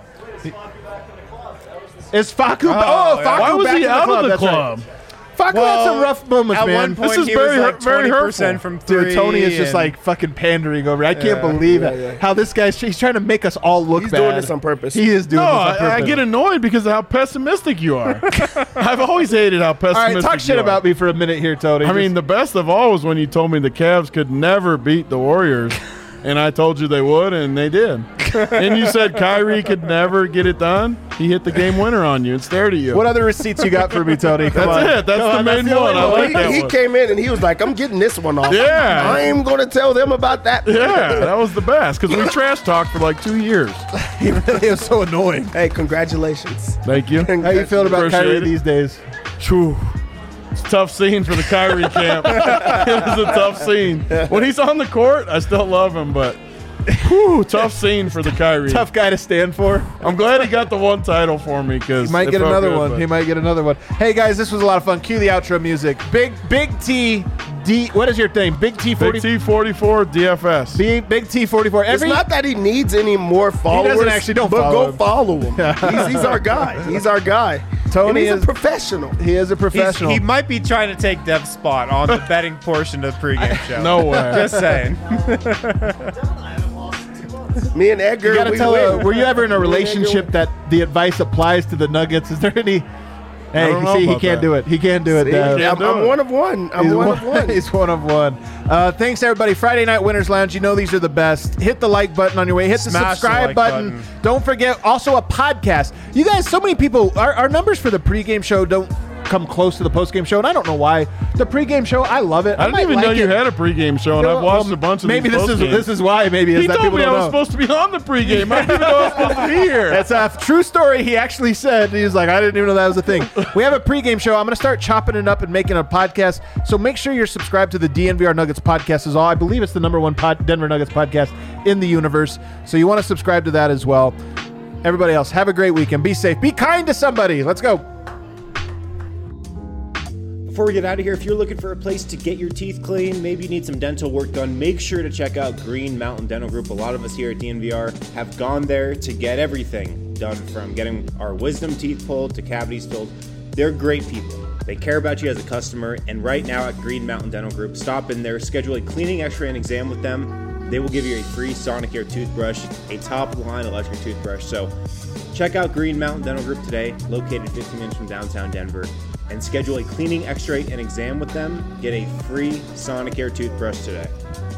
Is Facu? yeah. Facu Why was back he in the out club? of the That's right. club? Facu had some rough moments, At man. one point, This is he very was like very 20% hurtful. from 3. Dude, Tony is just and- like fucking pandering over. I can't believe it. How this guy's—he's trying to make us all look He's bad. doing this on purpose. He is doing No, this on purpose. I get annoyed because of how pessimistic you are. I've always hated how All pessimistic right, talk shit you are. about me for a minute here, Tony. I mean, the best of all was when you told me the Cavs could never beat the Warriors, and I told you they would, and they did. And you said Kyrie could never get it done. He hit the game winner on you and stared at you. what other receipts you got for me, Tony? Come That's on. it. That's Come the on, main the one. only I like He, that he one. came in and he was like, I'm getting this one off. Yeah. I am going to tell them about that. Yeah, that was the best because we trash talked for like 2 years. He really was so annoying. Hey, congratulations. Thank you. How you feeling about Appreciate Kyrie it. these days? Phew. It's a tough scene for the Kyrie camp. It was a tough scene. When he's on the court, I still love him, but whew, tough scene for the Kyrie. Tough guy to stand for. I'm glad he got the one title for me because He might get another one. He might get another one. Hey guys, this was a lot of fun. Cue the outro music. Big T D. What is your name? Big T 40. Big T44 DFS. Big T 44. It's not that he needs any more followers. doesn't actually, don't but follow go him. follow him. He's our guy. He's our guy. Tony and he's is- a professional. He is a professional. He might be trying to take Dev's spot on the betting portion of the pregame show. No way. Just saying. Me and Edgar, You gotta we tell. win. Were you ever in a Me and Edgar relationship win. that the advice applies to the Nuggets? Is there any? Hey, don't know see, he about can't that. do it. He can't do it. See, Dev. can't I'm do it. one of one. I'm He's one of one. He's one of one. Thanks, everybody. Friday Night Winners Lounge. You know these are the best. Hit the like button on your way. Hit the Smash the subscribe like button. button. Don't forget, also a podcast. You guys, so many people, our numbers for the pregame show don't come close to the postgame show, and I don't know why. The pregame show, I love it. I didn't might even like know you it. had a pregame show, and I've watched a bunch of Maybe these this postgames. is why. Maybe is He that told people me I don't was know. supposed to be on the pregame. I didn't even know I was supposed to be here. That's a true story. He actually said, he was like, I didn't even know that was a thing. We have a pregame show. I'm going to start chopping it up and making a podcast. So make sure you're subscribed to the DNVR Nuggets podcast as well. I believe it's the #1 Denver Nuggets podcast in the universe. So you want to subscribe to that as well. Everybody else, have a great weekend. Be safe. Be kind to somebody. Let's go. Before we get out of here, if you're looking for a place to get your teeth clean, maybe you need some dental work done, make sure to check out Green Mountain Dental Group. A lot of us here at DNVR have gone there to get everything done, from getting our wisdom teeth pulled to cavities filled. They're great people. They care about you as a customer, and right now at Green Mountain Dental Group, stop in there, schedule a cleaning, x-ray, and exam with them. They will give you a free Sonicare toothbrush, a top-line electric toothbrush. So check out Green Mountain Dental Group today, located 15 minutes from downtown Denver, and schedule a cleaning, x-ray, and exam with them. Get a free Sonicare toothbrush today.